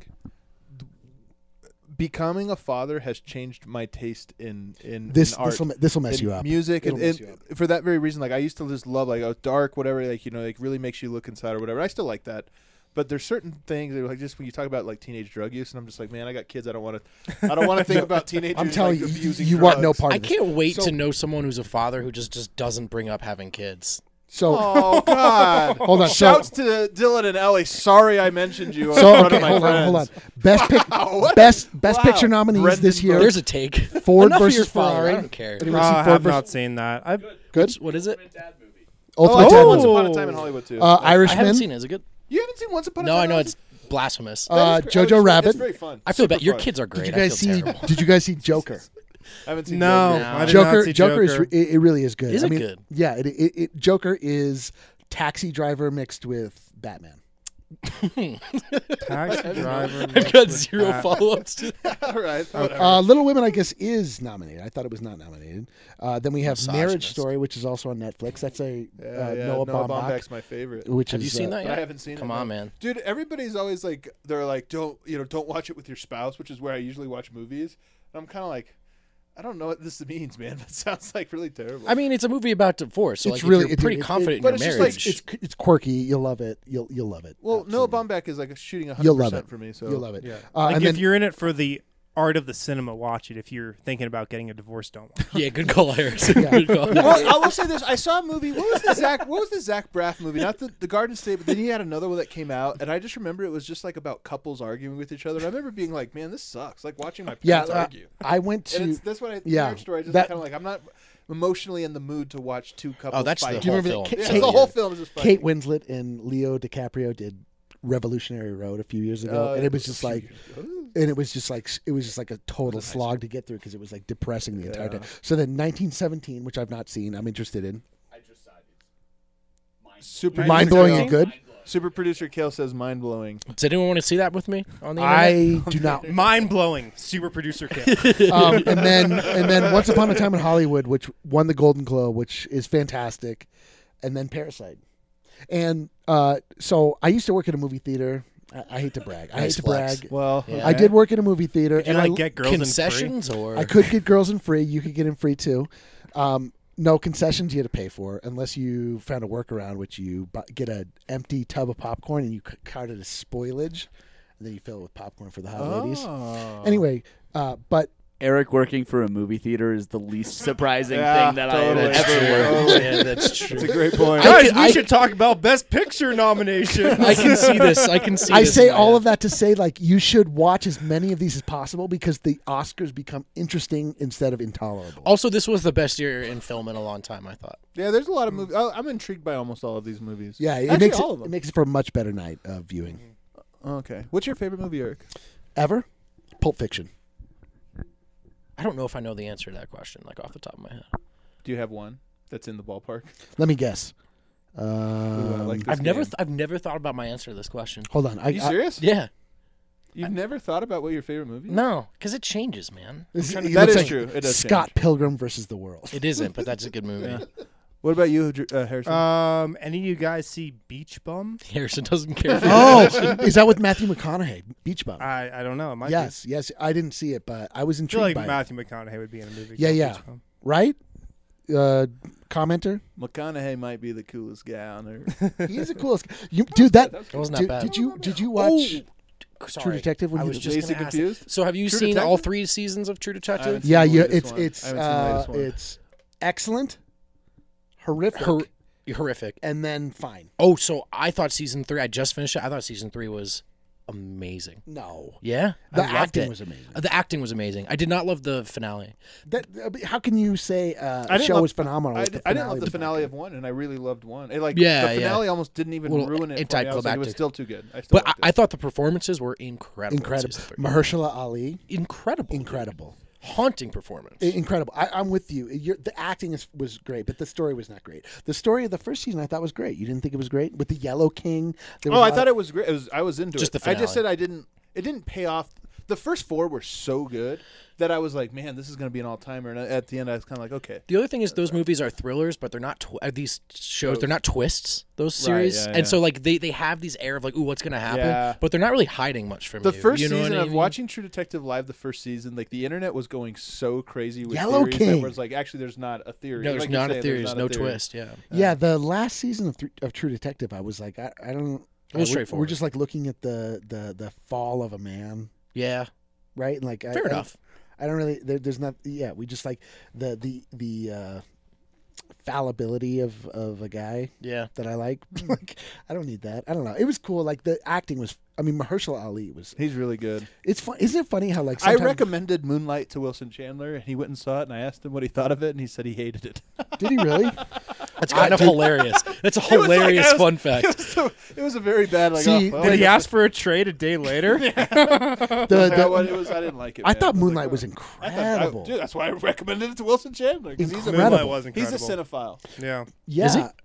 Becoming a father has changed my taste in in, This in art. this will this will mess in you up. music It'll and, mess and you up. for that very reason, like I used to just love like oh dark whatever like you know like really makes you look inside or whatever. I still like that, but there's certain things that are like just when you talk about like teenage drug use and I'm just like man I got kids I don't want to I don't want to think about teenagers. I'm telling like, you, you, abusing you want no drugs. part I of this. can't wait So- to know someone who's a father who just, just doesn't bring up having kids. So Oh God! Hold on, so- Shouts to Dylan and Ellie. Sorry I mentioned you in so front okay, of my hold on, friends. hold on. Best pic, what? best best Wow. picture nominees Brendan this year. Burke. There's a take. Ford Enough of versus your father. Ferrari. I don't care. Anyone Uh, see I Ford have versus not seen that. I good? What is it? Dad movie. Oh, Ultimate I Dad saw Once movie. Upon a Time in Hollywood too. Uh, I haven't Irishman. seen it. Is it good? You haven't seen Once Upon a No, Time? I in know Hollywood? it's blasphemous. Uh, That is great. Jojo It's very- Rabbit. It's very fun. I feel Super bad. Your fun. kids are great. Did you guys I feel see? terrible. Did you guys see Joker? I haven't seen No, Jojo. No. I did not Joker, see Joker, is Joker. re- it, it really is good. Is I it mean, good? Yeah, it, it, it Joker is Taxi Driver mixed with Batman. Taxi driver. I've mixed got with zero hat. follow-ups to All right. whatever. Uh, Little Women, I guess, is nominated. I thought it was not nominated. Uh, then we have Marriage Misogynist. Story, which is also on Netflix. That's a yeah, uh, yeah, Noah, Noah Baumbach, Baumbach's my favorite. which Have is, you seen uh, that But yet? I haven't seen Come it. on, no. man. Dude, everybody's always like, they're like, don't you know, don't watch it with your spouse, which is where I usually watch movies. And I'm kind of like, I don't know what this means, man. That sounds like really terrible. I mean, it's a movie about divorce, so It's like, really- if you're it- pretty it- it- confident but in it's your just marriage. like- It's it's quirky. You'll love it. You'll you'll love it. well, Noah Absolutely. Baumbach is like shooting one You'll hundred love percent it. for me. So You'll love it. Yeah. Uh, like and if then- you're in it for the art of the cinema, watch it. If you're thinking about getting a divorce, don't watch it. yeah, good call, Harrison. Yeah. Good call. Well, I will say this: I saw a movie. What was the Zach? What was the Zach Braff movie? Not the, the Garden State, but then he had another one that came out, and I just remember it was just like about couples arguing with each other. And I remember being like, "Man, this sucks!" Like watching my Yeah, parents uh, argue. I went And to. it's, that's what I. yeah, Marriage Story. Just that- kind of like I'm not emotionally in the mood to watch two couples. Oh, that's the fight. Do you whole remember film. that Yeah, Kate- the whole film is just Kate fighting. Winslet and Leo DiCaprio did Revolutionary Road a few years ago, Uh, and it was just like, Ooh. and it was just like, it was just like a total nice slog to get through because it was like depressing the entire Yeah. time. So then, nineteen seventeen, which I've not seen, I'm interested in. I just saw it. It's mind super Mind blowing Kale- and good. Super producer Kale says mind blowing. Does anyone want to see that with me on the internet? I do not. Mind blowing. Super producer Kale. Um, and then, and then, Once Upon a Time in Hollywood, which won the Golden Globe, which is fantastic, and then Parasite. And uh, so I used to work at a movie theater. I, I hate to brag. I hate Nice to flex. brag. Well, Yeah. I did work at a movie theater, Did you and like I, get girls in free? Concessions or I could get girls in free. You could get in free too. Um, no concessions you had to pay for unless you found a workaround, which you bu- get an empty tub of popcorn and you c- cart it as spoilage, and then you fill it with popcorn for the hot ladies. Oh. Anyway, uh, but Eric working for a movie theater is the least surprising Yeah, thing that totally. I have That's ever true. worked. Totally. Yeah, that's true. That's a great point. I Guys, can- we I- should talk about Best Picture nominations. I can see this. I can see. I this say in my all head. of that to say, like, you should watch as many of these as possible because the Oscars become interesting instead of intolerable. Also, this was the best year in film in a long time. I thought. Yeah, there's a lot of movies. I'm intrigued by almost all of these movies. Yeah, it Actually, makes all it, of them. it makes it for a much better night of viewing. Okay. What's your favorite movie, Eric? Ever? Pulp Fiction. I don't know if I know the answer to that question, like off the top of my head. Do you have one that's in the ballpark? Let me guess. Ooh, I Um, like this I've never, game. th- I've never thought about my answer to this question. hold on. I, Are you I- serious? Yeah, You've never thought about what your favorite movie is? no, because it changes, man. This- trying to- it That looks is like true. It does Scott change. Pilgrim versus the World. It isn't, but that's a good movie. Yeah. What about you, Dr- uh, Harrison? um, any of you guys see Beach Bum? Harrison doesn't care. For Oh, is that with Matthew McConaughey? Beach Bum. I, I don't know. It might Yes, yes. I didn't see it, but I was be. I feel intrigued like by it. Matthew McConaughey would be in a movie. Yeah, called yeah. Beach Bum. Right? Uh, commenter. McConaughey might be the coolest guy on earth. He is the coolest. You, dude, that. That wasn't Did, that bad. did you did you watch Oh, True sorry. Detective? When I you was did- just Dazed gonna and ask. Confused? So, have you True seen Detective? all three seasons of True Detective? haven't Yeah, seen the yeah. latest It's one. it's I haven't seen the uh, latest one. it's excellent, horrific, Hor- horrific. and then fine. Oh, so I thought season three. I just finished it. I thought season three was amazing. No, Yeah, the I loved acting it. was amazing. Uh, The acting was amazing. I did not love the finale. That uh, but how can you say uh, I a didn't show love- was phenomenal? I, if d- the I didn't love the was finale bad? of one, and I really loved one. It, like Yeah, the yeah. finale almost didn't even Well, ruin it. it for me. I died was like, it was climactic. still too good. I still But I, liked it. I thought the performances were incredible. in Incredible. season three. Mahershala Ali, Incredible. incredible, Haunting performance. I- incredible. I, I'm with you. You're, the acting is, was great, but the story was not great. The story of the first season I thought was great. You didn't think it was great with the Yellow King? There was Oh, a I lot thought of- it was great. It was, I was into Just it. the I just finale. said I didn't. It didn't pay off. The first four were so good that I was like, man, this is going to be an all timer. And at the end, I was kind of like, okay. The other thing is those movies are thrillers, but they're not tw- uh, these shows. They're not twists. Those Right, series, yeah, and yeah. so like they, they have these air of like, ooh, what's gonna happen? Yeah. But they're not really hiding much from The you. first you know season what I of mean? watching True Detective live, the first season, like the internet was going so crazy with Yellow theories King. that was like, actually, there's not a theory. No, there's Like you're not a saying, theory. there's There's not no a theory. twist. Yeah. Yeah, the last season of, Thr- of True Detective, I was like, I, I don't. It was uh, we're- straightforward. We're just like looking at the the the fall of a man, Yeah. right? And like, Fair I, I- enough. I don't really. There, there's not. Yeah, we just like the the the uh, fallibility of of a guy Yeah. that I like. Like, I don't need that. I don't know. It was cool. Like the acting was. I mean, Mahershala Ali was. He's really good. It's fun. Isn't it funny how like I sometimes, recommended Moonlight to Wilson Chandler, and he went and saw it, and I asked him what he thought of it, and he said he hated it. Did he really? That's kind of hilarious. That's a It was like- hilarious I was- fun It fact. was, so, it was a very bad, like, See, oh, well, Did I he guess- ask for a trade a day later? The, Yeah, the- well, it was, I didn't like it. I man. thought was Moonlight like, was oh. I thought- I- incredible. dude, that's why I recommended it to Wilson Chandler because he's a Incredible. Moonlight was he's a incredible. cinephile. Yeah. yeah. Is he?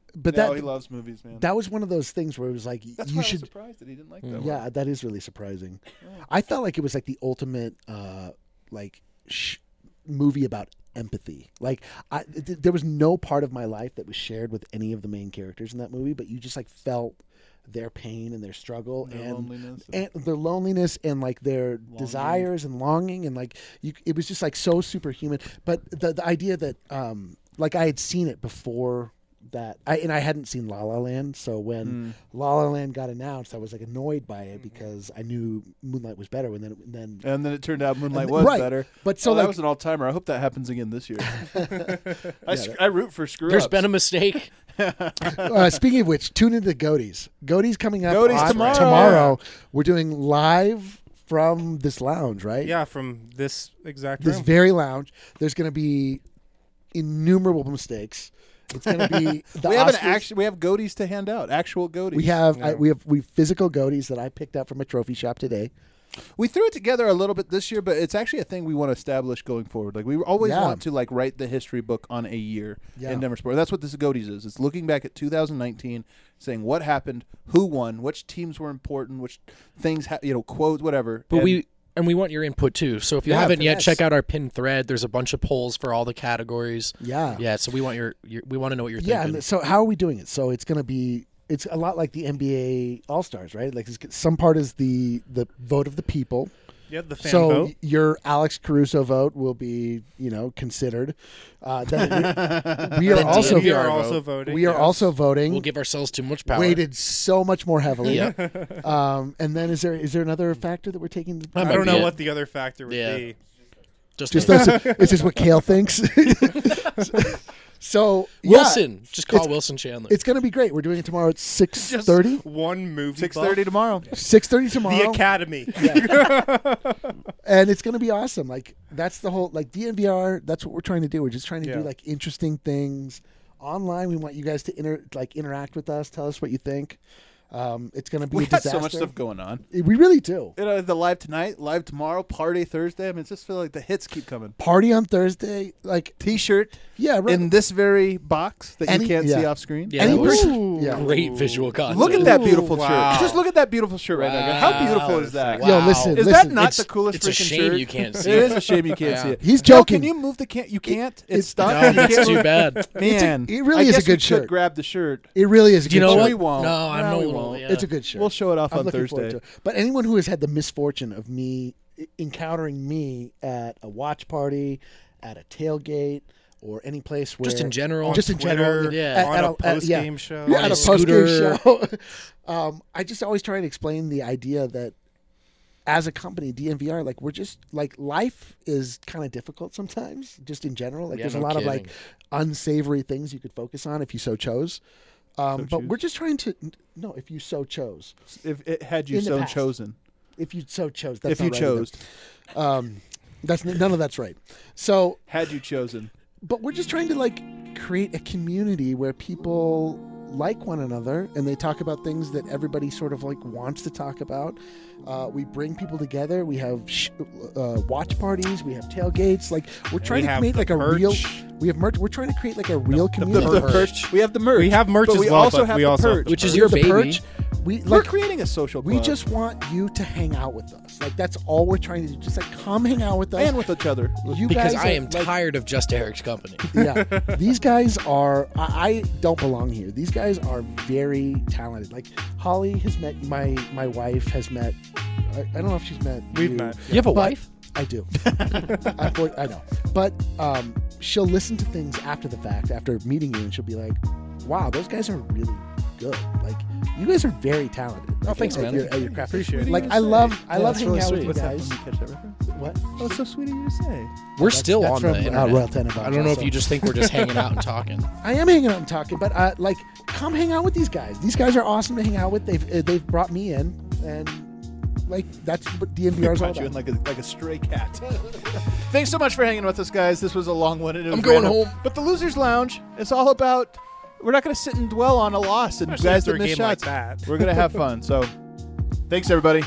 but no, that he loves movies, man. that was one of those things where it was like That's you why should. I was surprised that he didn't like that. one. Yeah, that is really surprising. I felt like it was like the ultimate, uh, like sh- movie about empathy. Like, I, th- there was no part of my life that was shared with any of the main characters in that movie, but you just like felt their pain and their struggle Their and loneliness and their loneliness and like their desires and longing and like you. It was just like so superhuman. But the the idea that um, like I had seen it before. That I and I hadn't seen La La Land, so when Mm. La La Land got announced, I was like annoyed by it because I knew Moonlight was better. And then, and then, And then it turned out Moonlight And- was right. better. but so oh, that like, was an all-timer. I hope that happens again this year. I, sc- I root for screw There's ups. been a mistake. uh, speaking of which, tune into Goaties. Goaties coming up Goaties on- tomorrow. Tomorrow, we're doing live from this lounge, right? Yeah, from this exact This room. very lounge. There's going to be innumerable mistakes. It's going to be the we have an Oscars. action. We have goatees to hand out. Actual goatees. We have I, Yeah. we have we have physical goaties that I picked up from a trophy shop today. We threw it together a little bit this year, but it's actually a thing we want to establish going forward. Like we always Yeah. want to like write the history book on a year Yeah. in Denver sport. That's what this Goaties is. It's looking back at two thousand nineteen, saying what happened, who won, which teams were important, which things, ha- you know, quotes, whatever. But And we and we want your input too. So if you Yeah, haven't yet, yes. check out our pinned thread. There's a bunch of polls for all the categories. Yeah. Yeah, so we want your, your we want to know what you're Yeah, thinking. and so how are we doing it? So it's going to be it's a lot like the N B A All Stars, right? Like it's, some part is the the vote of the people. Yeah, the fan so vote. your Alex Caruso vote will be, you know, considered. Uh, then we, we are Then also D M V we R are vote. also voting. we are yes. also voting. We'll give ourselves too much power. Weighted so much more heavily. Yeah. Um, and then is there is there another factor that we're taking? That I might don't be know it. what the other factor would Yeah. be. Just, Just those. those, it's just what Kale thinks. So yeah, Wilson. Just call It's- Wilson Chandler. it's going to be great. We're doing it tomorrow at six Just thirty. one movie. six buff. thirty tomorrow. Six thirty tomorrow. The Academy. And it's going to be awesome. Like that's the whole like D N V R. That's what we're trying to do. We're just trying to do Yeah. like interesting things online. We want you guys to inter like interact with us. Tell us what you think. Um, it's going to be We a got disaster. so much stuff going on. We really do. You know, the live tonight, live tomorrow, party Thursday. I mean, it's just feel like the hits keep coming. Party on Thursday. Like T-shirt yeah, right. in this very box that Any- you can't see yeah. off screen. yeah, any that was person- yeah. great visual content. Look at that beautiful Ooh, shirt. wow. Just look at that beautiful shirt right now. How beautiful Wow. is that? Wow. Yo, listen, Is listen. that not It's- the coolest it's a freaking shame shirt? you can't see It it. is a shame you can't Yeah. see it. He's Joe, joking. can you move the can? You can't. It's it's- stuck. No, You that's can't too move- bad. Man, it really I is a guess good we could shirt. grab the shirt. It really is a Do you good know shirt. what? We won't. No, I No, know we we won't. won't. Yeah. It's a good shirt. We'll show it off I'm on looking forward Thursday. to it. But anyone who has had the misfortune of me encountering me at a watch party, at a tailgate, or any place where Just in general. just in Twitter, general, yeah. at, on at a at- post yeah. game show. Yeah, On at a a post game scooter. show. um, I just always try and explain the idea that as a company, D N V R, like we're just like life is kind of difficult sometimes, just in general. Like Yeah, there's a no lot of like kidding. unsavory things you could focus on if you so chose. Um, So but choose. we're just trying to no, if you so chose, If it had you In the so past. chosen, if you so chose, that's if you not right either. chose, Um, that's none of that's right. So, had you chosen. but we're just trying to like create a community where people like one another and they talk about things that everybody sort of like wants to talk about. Uh, we bring people together. We have sh- uh, watch parties. We have tailgates. Like we're trying we to have create the like a merch. real. We have merch. We're trying to create like a real The, community. the Merch. perch. We have the merch. We have merch but as we well, also but have we the also have perch. the Which is We your have the baby. perch. We We're like. creating a social club. We just want you to hang out with us. Like that's all we're trying to do. Just like come hang out with us. and with each other. you Because guys I are, am like, tired of Just Eric's company. yeah, these guys are. I, I don't belong here. These guys are very talented. Like Holly has met my my wife has met. I, I don't know if she's met. We've you. met. You have a But- wife? I do. I, I know, but um, she'll listen to things after the fact, after meeting you, and she'll be like, "Wow, those guys are really good. Like, you guys are very talented." Oh, Like, thanks, at man. Your, at your craft. Appreciate it. Like, I love, I Yeah, love that's hanging really out with sweet. you What's that? guys. Did you catch that reference? What? Oh, it's so sweet of you to say. We're That's- still that's on from, the uh, internet. Royal Tenenbaums I don't know if also. you just think we're just hanging out and talking. I am hanging out and talking, but uh, like, come hang out with these guys. These guys are awesome to hang out with. They've uh, they've brought me in, and like that's what D N V R is all Caught you in about. like a like a stray cat. Thanks so much for hanging with us, guys. This was a long one. And it was I'm going random. home. But the Losers Lounge is all about. We're not going to sit and dwell on a loss and Especially guys after that a miss game like shots. that. We're going to have fun. So, thanks everybody.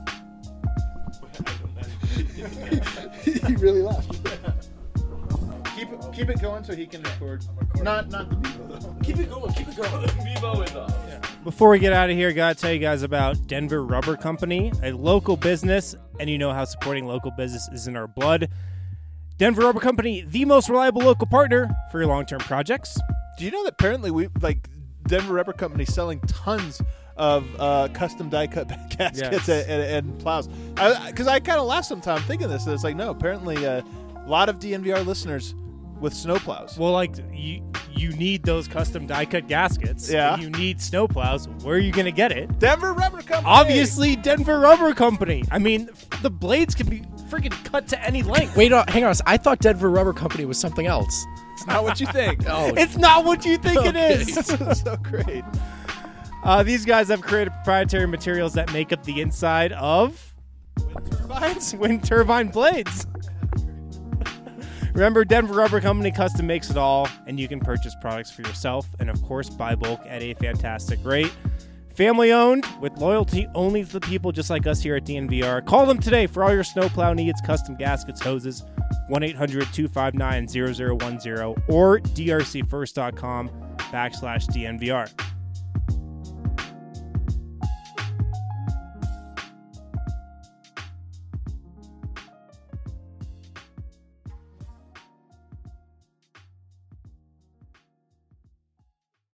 He really laughed. Keep it, keep it going so he can record. Not not the Bevo though. Keep it going. Keep it going. Vivo is off. Before we get out of here, gotta tell you guys about Denver Rubber Company, a local business, and you know how supporting local business is in our blood. Denver Rubber Company, the most reliable local partner for your long-term projects. Do you know that apparently we like Denver Rubber Company selling tons of uh, custom die cut gaskets Yes. and, and, and plows? Because I, I kind of laughed sometime thinking this. And it's like no, apparently uh, a lot of D N V R listeners with snow plows. Well, like, you you need those custom die-cut gaskets. Yeah. You need snow plows. Where are you going to get it? Denver Rubber Company. Obviously, Denver Rubber Company. I mean, the blades can be freaking cut to any length. Wait, uh, hang on. I thought Denver Rubber Company was something else. It's not what you think. Oh, It's not what you think it Okay. is. So great. Uh, these guys have created proprietary materials that make up the inside of Wind turbines. wind turbine blades. Remember, Denver Rubber Company custom makes it all, and you can purchase products for yourself and, of course, buy bulk at a fantastic rate. Family owned, with loyalty only to the people just like us here at D N V R. Call them today for all your snowplow needs, custom gaskets, hoses, one eight hundred two five nine zero zero one zero or d r c first dot com backslash D N V R.